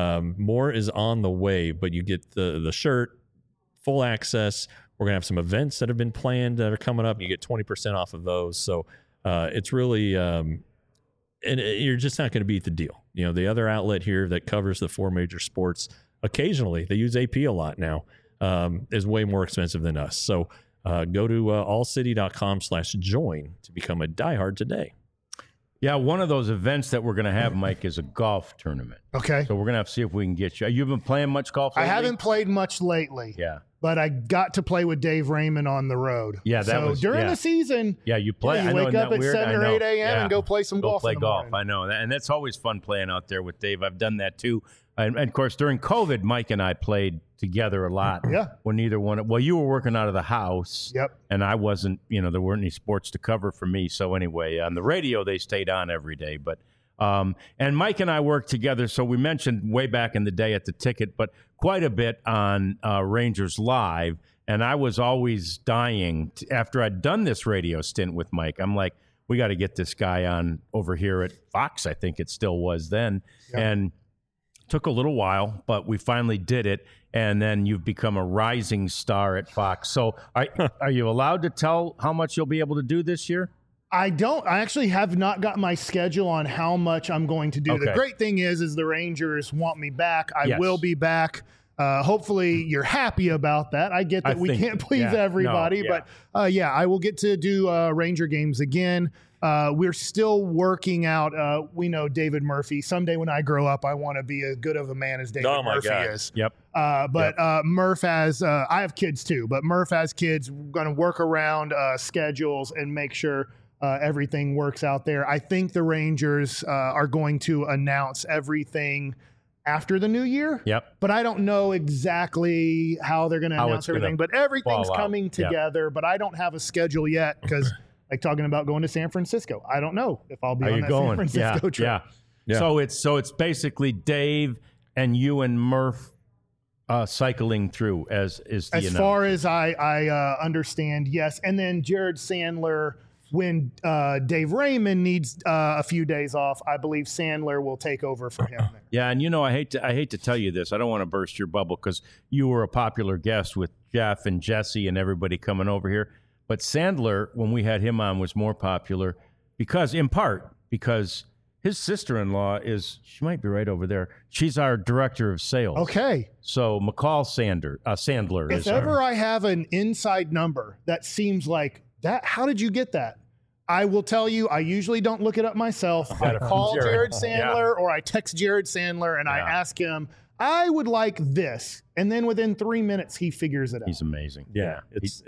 more is on the way, but you get the shirt, full access. We're going to have some events that have been planned that are coming up. You get 20% off of those. So it's really, and you're just not going to beat the deal. The other outlet here that covers the 4 major sports, occasionally, they use AP a lot now, is way more expensive than us. So go to allcity.com/join to become a diehard today. Yeah, one of those events that we're going to have, Mike, is a golf tournament. Okay. So we're going to have to see if we can get you. You've been playing much golf lately? I haven't played much lately. Yeah. But I got to play with Dave Raymond on the road. Yeah, during the season. Yeah, you play. You wake up at 7 or 8 a.m. and go play some golf. Play golf. I know. And that's always fun playing out there with Dave. I've done that too. And of course, during COVID, Mike and I played together a lot. Yeah. When neither one. Well, you were working out of the house. Yep. And I wasn't. There weren't any sports to cover for me. So anyway, on the radio, they stayed on every day. But and Mike and I worked together. So we mentioned way back in the day at the Ticket, but quite a bit on Rangers Live. And I was always dying after I'd done this radio stint with Mike. I'm like, we got to get this guy on over here at Fox. I think it still was then. Yep. And took a little while, but we finally did it. And then you've become a rising star at Fox. So are you allowed to tell how much you'll be able to do this year? I don't. I actually have not got my schedule on how much I'm going to do. Okay. The great thing is the Rangers want me back. I will be back. Hopefully you're happy about that. I get that we can't please everybody, but I will get to do Ranger games again. We're still working out. We know David Murphy. Someday when I grow up, I want to be as good of a man as David Murphy is. Yep. Murph has, I have kids too, but Murph has kids. We're going to work around schedules and make sure everything works out there. I think the Rangers are going to announce everything after the new year. Yep. But I don't know exactly how they're going to announce everything. But everything's coming together. Yep. But I don't have a schedule yet because, like talking about going to San Francisco, I don't know if I'll be on that San Francisco trip. Yeah. So it's basically Dave and you and Murph cycling through as far as I understand. Yes, and then Jared Sandler. When Dave Raymond needs a few days off, I believe Sandler will take over for him. There. Yeah, and I hate to tell you this. I don't want to burst your bubble because you were a popular guest with Jeff and Jesse and everybody coming over here. But Sandler, when we had him on, was more popular because his sister-in-law she might be right over there. She's our director of sales. Okay. So McCall Sandler. If ever I have an inside number that seems like that, how did you get that? I will tell you, I usually don't look it up myself. I call Jared Sandler or I text Jared Sandler and I ask him, I would like this. And then within 3 minutes, he figures it out. He's amazing. Yeah.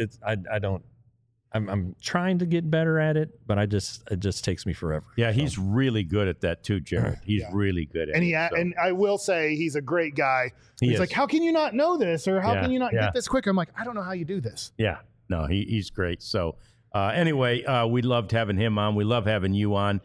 I'm trying to get better at it, but it just takes me forever. Yeah. He's really good at that too, Jared. He's really good at it. And I will say he's a great guy. He's like, how can you not know this? Or how can you not get this quicker? I'm like, I don't know how you do this. Yeah. No, he's great. So anyway, we loved having him on. We love having you on.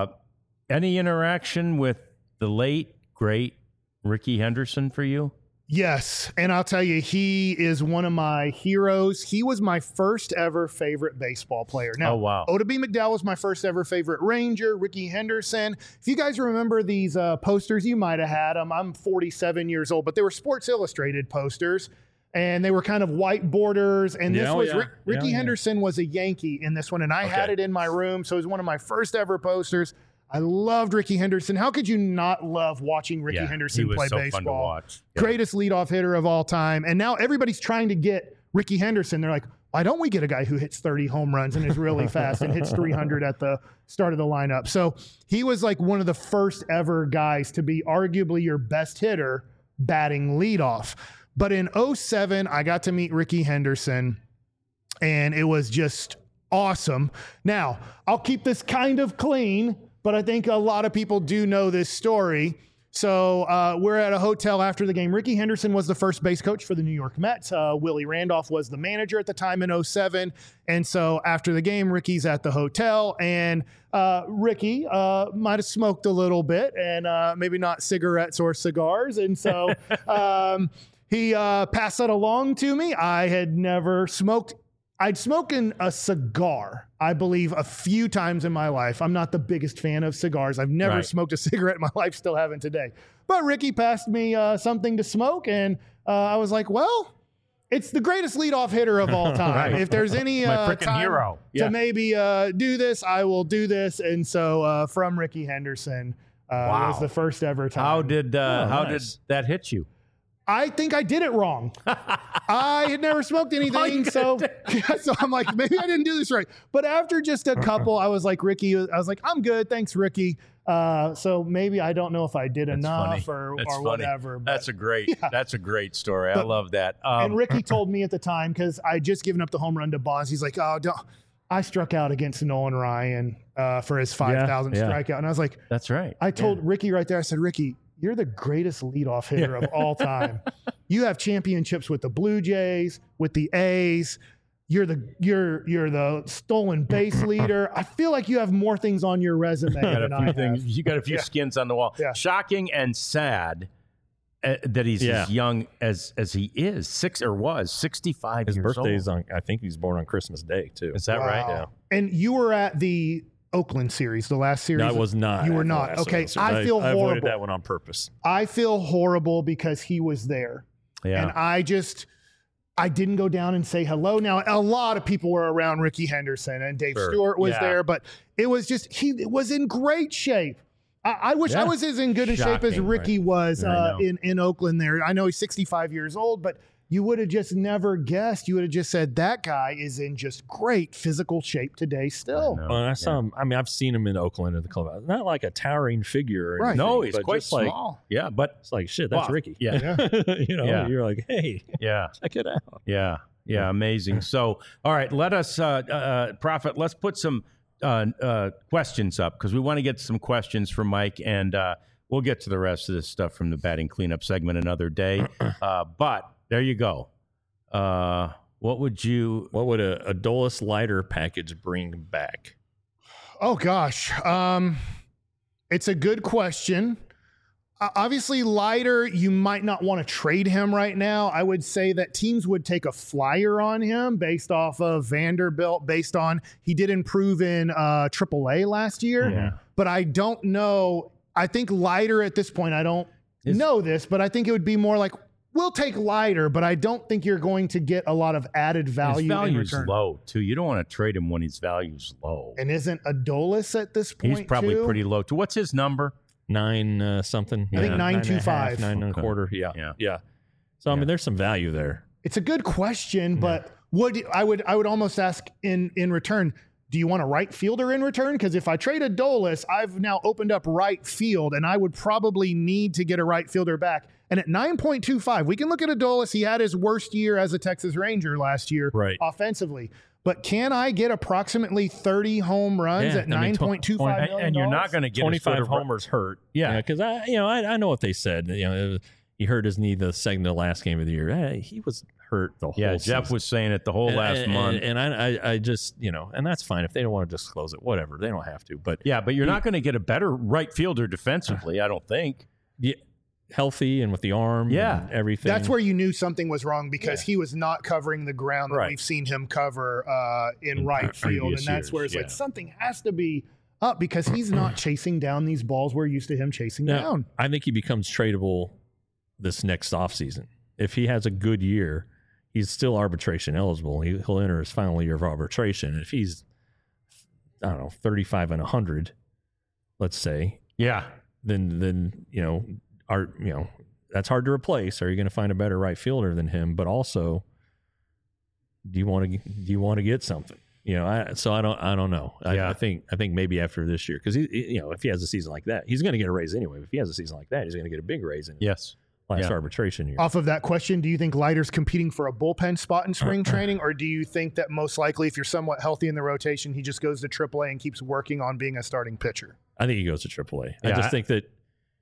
Any interaction with the late, great Rickey Henderson for you? Yes, and I'll tell you, he is one of my heroes. He was my first ever favorite baseball player. Now, Oh, wow. Oda B. McDowell was my first ever favorite Ranger. Ricky Henderson. If you guys remember these posters, you might have had them. I'm 47 years old, but they were Sports Illustrated posters, and they were kind of white borders. And this was Ricky Henderson was a Yankee in this one, and I had it in my room, so it was one of my first ever posters. I loved Ricky Henderson. How could you not love watching Ricky Henderson play so baseball? fun to watch. Yeah. Greatest leadoff hitter of all time. And now everybody's trying to get Ricky Henderson. They're like, why don't we get a guy who hits 30 home runs and is really fast and hits 300 at the start of the lineup? So he was like one of the first ever guys to be arguably your best hitter batting leadoff. But in 2007, I got to meet Ricky Henderson, and it was just awesome. Now, I'll keep this kind of clean, but I think a lot of people do know this story. So we're at a hotel after the game. Ricky Henderson was the first base coach for the New York Mets. Willie Randolph was the manager at the time in 2007. And so after the game, Ricky's at the hotel, and Ricky might have smoked a little bit, and maybe not cigarettes or cigars. And so he passed that along to me. I had never smoked. I'd smoking a cigar, I believe, a few times in my life. I'm not the biggest fan of cigars. I've never smoked a cigarette in my life, still haven't today. But Ricky passed me something to smoke, and I was like, well, it's the greatest leadoff hitter of all time. If there's any My freaking time hero. to maybe do this, I will do this. And so from Ricky Henderson was the first ever time. How did nice. that hit you? I think I did it wrong. I had never smoked anything, so I'm like, maybe I didn't do this right. But after just a couple, I was like, Ricky, I was like, I'm good, thanks, Ricky. So maybe I don't know if I did enough or whatever. But That's a great story. I love that. And Ricky told me at the time, because I just given up the home run to Bonds. He's like, oh, I struck out against Nolan Ryan for his 5,000th strikeout, and I was like, that's right. I told Ricky right there. I said, Ricky, you're the greatest leadoff hitter of all time. You have championships with the Blue Jays, with the A's. You're the stolen base leader. I feel like you have more things on your resume than I have. You got a few skins on the wall. Yeah. Shocking and sad that he's as young as he is, 65 His years birthday's old. I think he's born on Christmas Day too. Is that right? Yeah. And you were at the Oakland series, the last series. No, I was not. You were at the not. last Okay, one. I feel I horrible. avoided that one on purpose. I feel horrible because he was there. Yeah. And I didn't go down and say hello. Now, a lot of people were around Ricky Henderson, and Dave Stewart was there, but it was just, he was in great shape. I wish I was as in good a shape as Ricky was in Oakland there. I know he's 65 years old, but you would have just never guessed. You would have just said that guy is in just great physical shape today still. Well, I saw him. I mean, I've seen him in Oakland at the club. Not like a towering figure. Or anything, No, he's but quite just like, small. Yeah, but it's like, shit, that's Ricky. Yeah. You know, you're like, hey, check it out. Yeah, amazing. So, all right, let us, Prophet, let's put some questions up, because we want to get some questions from Mike, and we'll get to the rest of this stuff from the batting cleanup segment another day. But there you go. What would a Dulles lighter package bring back? Oh gosh. It's a good question. Obviously, Leiter, you might not want to trade him right now. I would say that teams would take a flyer on him based off of Vanderbilt, based on he did improve in AAA last year. But I don't know. I think Leiter at this point, I don't know this, but I think it would be more like, we'll take Leiter, but I don't think you're going to get a lot of added value. His value's in return. low, too. You don't want to trade him when his value's low. And isn't Adolis at this point, he's probably too? pretty low, too. What's his number? 9 something. I think 9.25. 9.25. Yeah. So I mean, there's some value there. It's a good question, but I would almost ask in return, do you want a right fielder in return? Because if I trade Adolis, I've now opened up right field, and I would probably need to get a right fielder back. And at 9.25, we can look at Adolis. He had his worst year as a Texas Ranger last year offensively. But can I get approximately 30 home runs at $9.25 million? And you're not going to get 25 homers hurt. Yeah. Because I know what they said. You know, he hurt his knee the last game of the year. He was hurt the whole season. Jeff was saying it the whole last month. And I just, and that's fine. If they don't want to disclose it, whatever. They don't have to. But but you're not going to get a better right fielder defensively, I don't think. Yeah. healthy and with the arm Yeah. and everything. That's where you knew something was wrong because he was not covering the ground that Right. we've seen him cover in right field. And previous that's where it's years, like yeah. something has to be up because he's not chasing down these balls we're used to him chasing down. I think he becomes tradable this next offseason. If he has a good year, he's still arbitration eligible. He'll enter his final year of arbitration. If he's, I don't know, 35 and 100, let's say, Yeah. then that's hard to replace. Are you going to find a better right fielder than him? But also, do you want to get something? I don't know. Yeah. I think maybe after this year, because if he has a season like that, he's going to get a raise anyway. If he has a season like that, he's going to get a big raise in his Yes. last Yeah. arbitration year. Off of that question, do you think Leiter's competing for a bullpen spot in spring training, or do you think that most likely, if you're somewhat healthy in the rotation, he just goes to AAA and keeps working on being a starting pitcher? I think he goes to AAA. Yeah, I just think that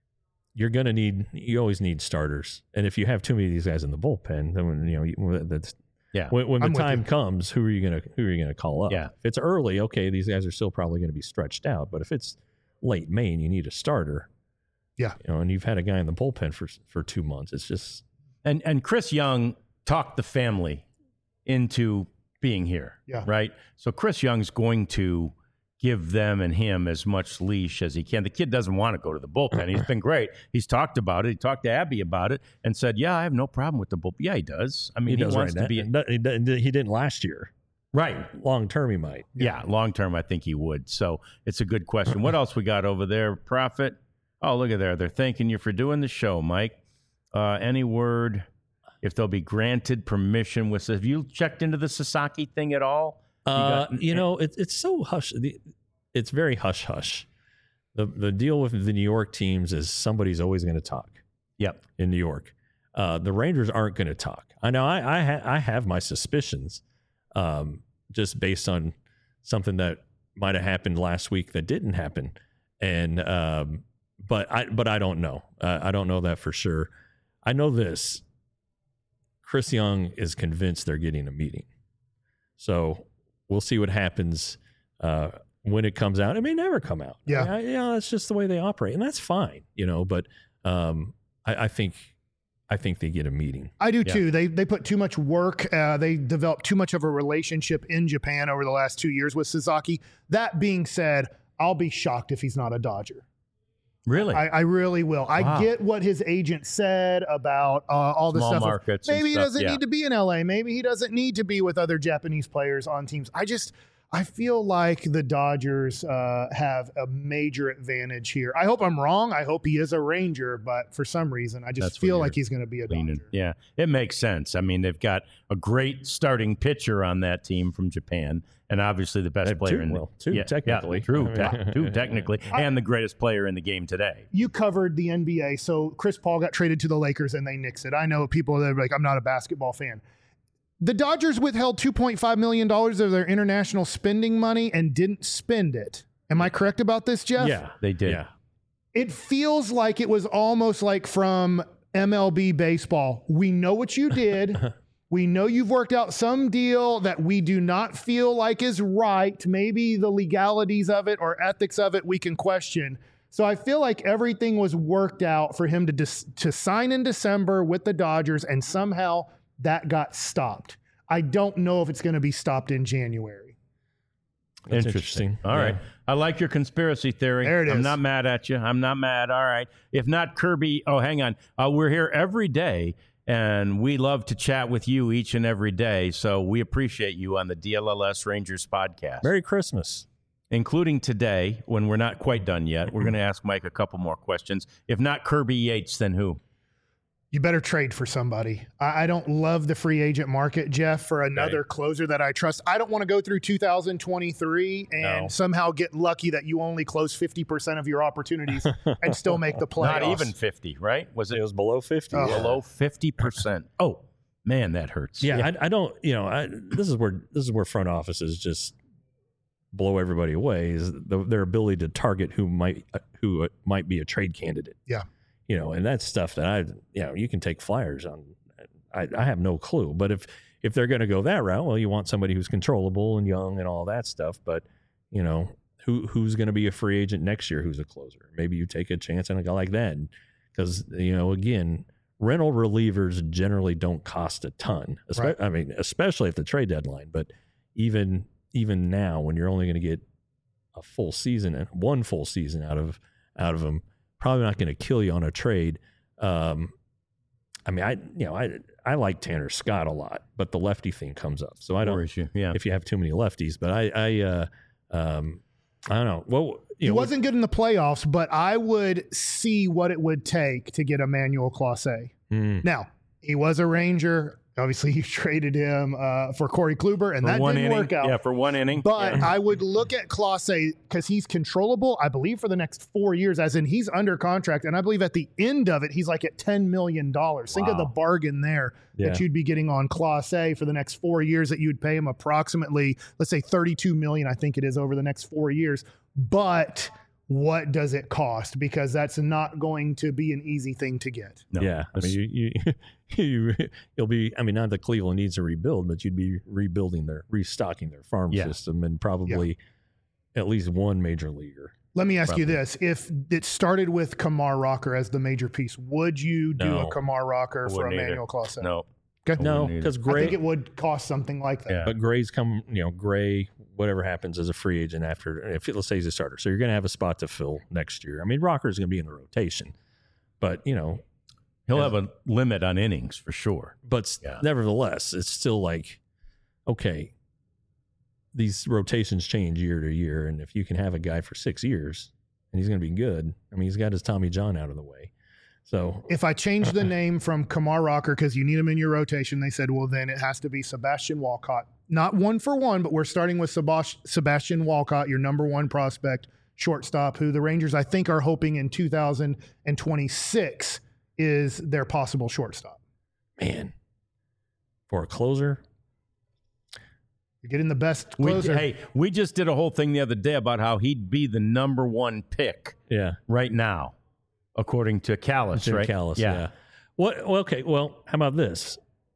you always need starters, and if you have too many of these guys in the bullpen, then that's. Yeah. When the I'm with time you. comes, who are you gonna call up? Yeah. If it's early, okay, these guys are still probably going to be stretched out. But if it's late May and you need a starter, Yeah. and you've had a guy in the bullpen for 2 months, it's just And Chris Young talked the family into being here. Yeah. Right. So Chris Young's going to give them and him as much leash as he can. The kid doesn't want to go to the bullpen. He's been great. He's talked about it. He talked to Abby about it and said, "Yeah, I have no problem with the bullpen." Yeah, he does. I mean, he does wants right to be now. He didn't last year. right. Long term, he might. Yeah, long term, I think he would. So it's a good question. What else we got over there, Prophet? Oh, look at there. They're thanking you for doing the show, Mike. Any word if they'll be granted permission with? Have you checked into the Sasaki thing at all? It's so hush. It's very hush hush. The deal with the New York teams is somebody's always going to talk. Yep. In New York, the Rangers aren't going to talk. I know. I have my suspicions, just based on something that might have happened last week that didn't happen, and but I don't know. I don't know that for sure. I know this. Chris Young is convinced they're getting a meeting, so we'll see what happens. When it comes out, it may never come out. Yeah. That's just the way they operate, and that's fine, But I think they get a meeting. I do too. They put too much work. They developed too much of a relationship in Japan over the last 2 years with Sasaki. That being said, I'll be shocked if he's not a Dodger. Really? I really will. Wow. I get what his agent said about all the Small stuff. markets and Maybe he stuff, doesn't yeah. need to be in LA. Maybe he doesn't need to be with other Japanese players on teams. I feel like the Dodgers have a major advantage here. I hope I'm wrong. I hope he is a Ranger, but for some reason, I just That's feel what like he's going to be a Leaning. Dodger. Yeah, it makes sense. I mean, they've got a great starting pitcher on that team from Japan, and obviously the best player in two technically. Two technically, and the greatest player in the game today. You covered the NBA, so Chris Paul got traded to the Lakers and they nixed it. I know people that are like, I'm not a basketball fan. The Dodgers withheld $2.5 million of their international spending money and didn't spend it. Am I correct about this, Jeff? Yeah, They did. Yeah. It feels like it was almost like from MLB baseball. We know what you did. We know you've worked out some deal that we do not feel like is right. Maybe the legalities of it or ethics of it we can question. So I feel like everything was worked out for him to sign in December with the Dodgers, and somehow that got stopped. I don't know if it's going to be stopped in January. That's Interesting. interesting. All right. I like your conspiracy theory. There it I'm is. not mad at you. I'm not mad. All right. If not Kirby, hang on. We're here every day, and we love to chat with you each and every day. So we appreciate you on the DLLS Rangers podcast. Merry Christmas. Including today, when we're not quite done yet. We're going to ask Mike a couple more questions. If not Kirby Yates, then who? You better trade for somebody. I don't love the free agent market, Jeff, for another closer that I trust. I don't want to go through 2023 and somehow get lucky that you only close 50% of your opportines and still make the playoffs. Not even 50, right? Was It it was below 50. below 50%? Oh, man, that hurts. Yeah, I don't. This is where front offices just blow everybody away. Is their ability to target who might be a trade candidate. Yeah. And that's stuff that you can take flyers on. I have no clue. But if they're going to go that route, well, you want somebody who's controllable and young and all that stuff. But who's going to be a free agent next year? Who's a closer? Maybe you take a chance on a guy like that. because again, rental relievers generally don't cost a ton. Right. I mean, especially at the trade deadline. But even now, when you're only going to get a full season and one full season out of them, probably not going to kill you on a trade. I mean, I like Tanner Scott a lot, but the lefty thing comes up. So I don't. If you have too many lefties, but I don't know. Well, he wasn't good in the playoffs, but I would see what it would take to get Emmanuel Clase. Now, he was a Ranger. Obviously, you traded him for Corey Kluber, and that didn't work out. Yeah, for one inning. But I would look at Clase because he's controllable, I believe, for the next 4 years, as in he's under contract. And I believe at the end of it, he's like at $10 million. Think of the bargain there that you'd be getting on Clase for the next 4 years, that you'd pay him approximately, let's say $32 million, I think it is, over the next 4 years. But what does it cost? Because that's not going to be an easy thing to get. No. Yeah. I mean, you'll be, I mean, not that Cleveland needs to rebuild, but you'd be restocking their farm system and probably at least one major leaguer. Let me ask you this. If it started with Kumar Rocker as the major piece, would you do a Kumar Rocker for Emmanuel Clase? No. Okay. No, because Gray. I think it would cost something like that. Yeah. But Gray's Gray, whatever happens as a free agent after, let's say he's a starter. So you're going to have a spot to fill next year. I mean, Rocker's going to be in the rotation, but, he'll have a limit on innings for sure. But nevertheless, it's still like, okay, these rotations change year to year. And if you can have a guy for 6 years and he's going to be good, I mean, he's got his Tommy John out of the way. So if I change the name from Kumar Rocker because you need him in your rotation, they said, well, then it has to be Sebastian Walcott. Not one for one, but we're starting with Sebastian Walcott, your number one prospect shortstop, who the Rangers, I think, are hoping in 2026 is their possible shortstop. Man, for a closer, you're getting the best closer. We just did a whole thing the other day about how he'd be the number one pick. Right now, according to Callis, right? Callis, yeah. Well, okay. Well, how about this?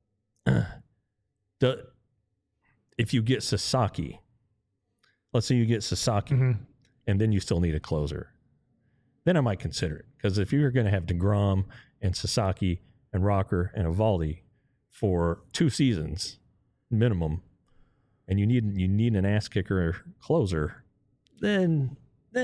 If you get Sasaki, let's say you get Sasaki, and then you still need a closer, then I might consider it. Because if you're going to have DeGrom and Sasaki and Rocker and Eovaldi for 2 seasons minimum, and you need an ass kicker closer, then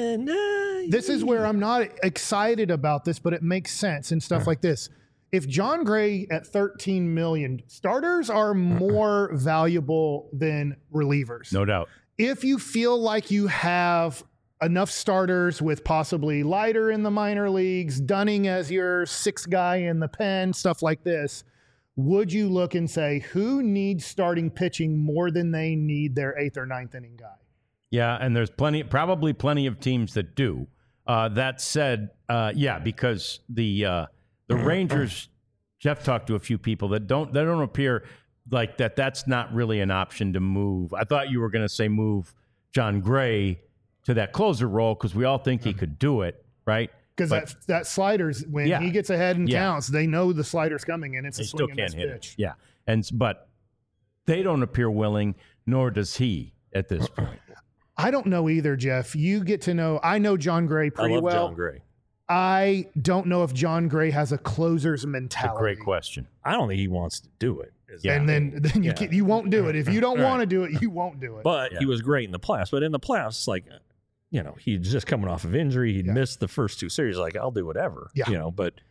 this is where I'm not excited about this, but it makes sense and stuff like this. If John Gray at $13 million, starters are more valuable than relievers. No doubt. If you feel like you have enough starters with possibly Leiter in the minor leagues, Dunning as your 6th guy in the pen, stuff like this, would you look and say, who needs starting pitching more than they need their 8th or 9th inning guy? Yeah, and there's probably plenty of teams that do. That said, because the Rangers, Jeff talked to a few people that don't appear like that. That's not really an option to move. I thought you were going to say move John Gray to that closer role because we all think he could do it, right? Because that slider's when he gets ahead and counts, they know the slider's coming and it's a swing and miss pitch. Yeah, but they don't appear willing, nor does he at this point. I don't know either, Jeff. You get to know. I know John Gray pretty well. I love John Gray. I don't know if John Gray has a closer's mentality. It's a great question. I don't think he wants to do it. And then you won't do it. If you don't want to do it, you won't do it. But he was great in the playoffs. But in the playoffs, like, he's just coming off of injury. He'd missed the first 2 series. Like, I'll do whatever. Yeah. But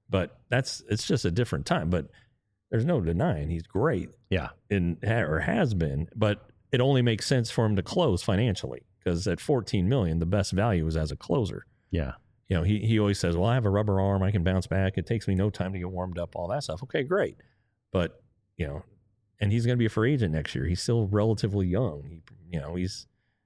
it's just a different time. But there's no denying he's great. Yeah. Or has been. But it only makes sense for him to close financially because at $14 million, the best value is as a closer. Yeah. He always says, well, I have a rubber arm. I can bounce back. It takes me no time to get warmed up, all that stuff. Okay, great. But, and he's going to be a free agent next year. He's still relatively young. He's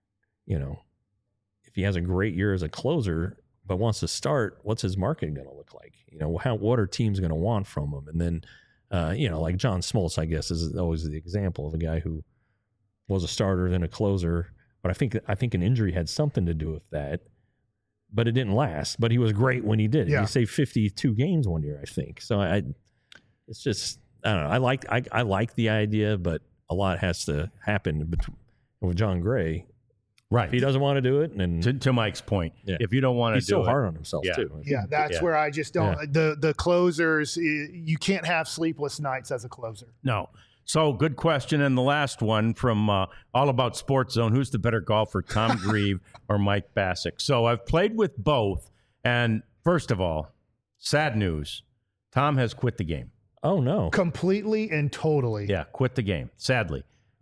if he has a great year as a closer, but wants to start, what's his market going to look like? What are teams going to want from him? And then, like John Smoltz, I guess, is always the example of a guy who was a starter, then a closer. But I think an injury had something to do with that. But it didn't last. But he was great when he did. Yeah. He saved 52 games one year, I think. So it's just, I don't know. I like the idea, but a lot has to happen with John Gray. Right. If he doesn't want to do it, and To Mike's point, Yeah. if you don't want to he's do so it, hard on himself Yeah. too. Yeah, that's Yeah. where I just don't. The closers, you can't have sleepless nights as a closer. no. So good question. And the last one from All About Sports Zone: who's the better golfer, Tom Grieve or Mike Bassick? So I've played with both, and first of all, sad news: Tom has quit the game. Oh no. Completely and totally. Yeah, quit the game. Sadly,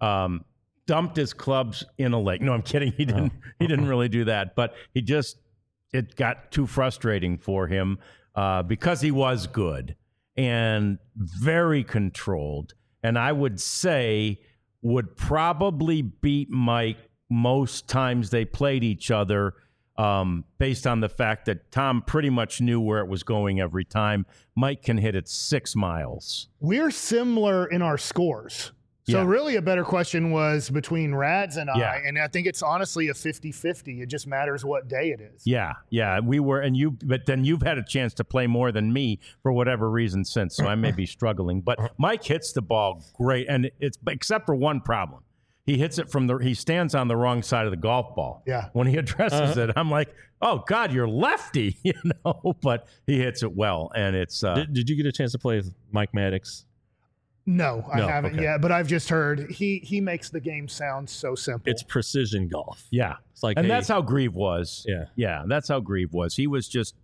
dumped his clubs in a lake. No, I'm kidding. He didn't. He didn't really do that, but it got too frustrating for him because he was good and very controlled, and I would say would probably beat Mike most times they played each other. Based on the fact that Tom pretty much knew where it was going every time. Mike can hit it 6 miles. We're similar in our scores. So Yeah. really a better question was between Rads and Yeah. I, and I think it's honestly a 50-50. It just matters what day it is. Yeah, we were, but then you've had a chance to play more than me for whatever reason since, so I may be struggling. But Mike hits the ball great, and it's except for one problem. He hits it he stands on the wrong side of the golf ball. Yeah. When he addresses it, I'm like, oh God, you're lefty, but he hits it well, and it's Did you get a chance to play with Mike Maddox? No, I No, haven't okay. yet, but I've just heard he makes the game sound so simple. It's precision golf. yeah. It's like, And hey, that's how Grieve was. Yeah. That's how Grieve was. He was just,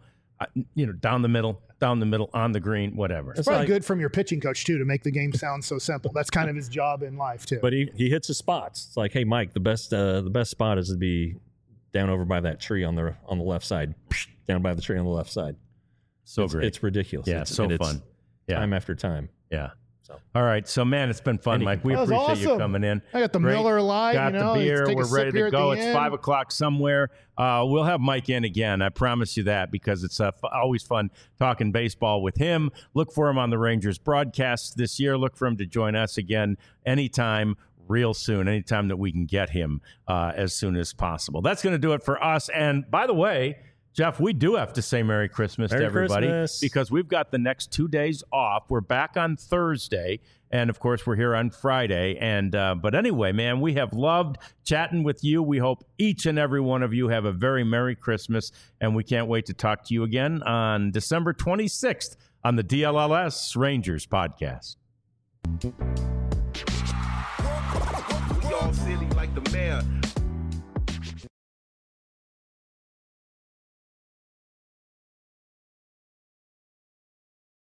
down the middle, on the green, whatever. It's probably good from your pitching coach too to make the game sound so simple. That's kind of his job in life too. But he hits his spots. It's like, hey, Mike, the best spot is to be down over by that tree on the left side, down by the tree on the left side. So It's- great. It's ridiculous. Yeah, It's so fun. Yeah. Time after time. Yeah. So. All right. So, man, it's been fun, Mike. We That was appreciate you awesome. coming in. I got the Great. Miller Lite. Got the beer. take a We're sip ready here to at go. the It's end. 5 o'clock somewhere. We'll have Mike in again. I promise you that, because it's always fun talking baseball with him. Look for him on the Rangers broadcast this year. Look for him to join us again anytime, real soon, anytime that we can get him as soon as possible. That's going to do it for us. And by the way, Jeff, we do have to say Merry Christmas to everybody because we've got the next 2 days off. We're back on Thursday, and of course, we're here on Friday. And but anyway, man, we have loved chatting with you. We hope each and every one of you have a very Merry Christmas, and we can't wait to talk to you again on December 26th on the DLLS Rangers podcast. We all silly like the mayor.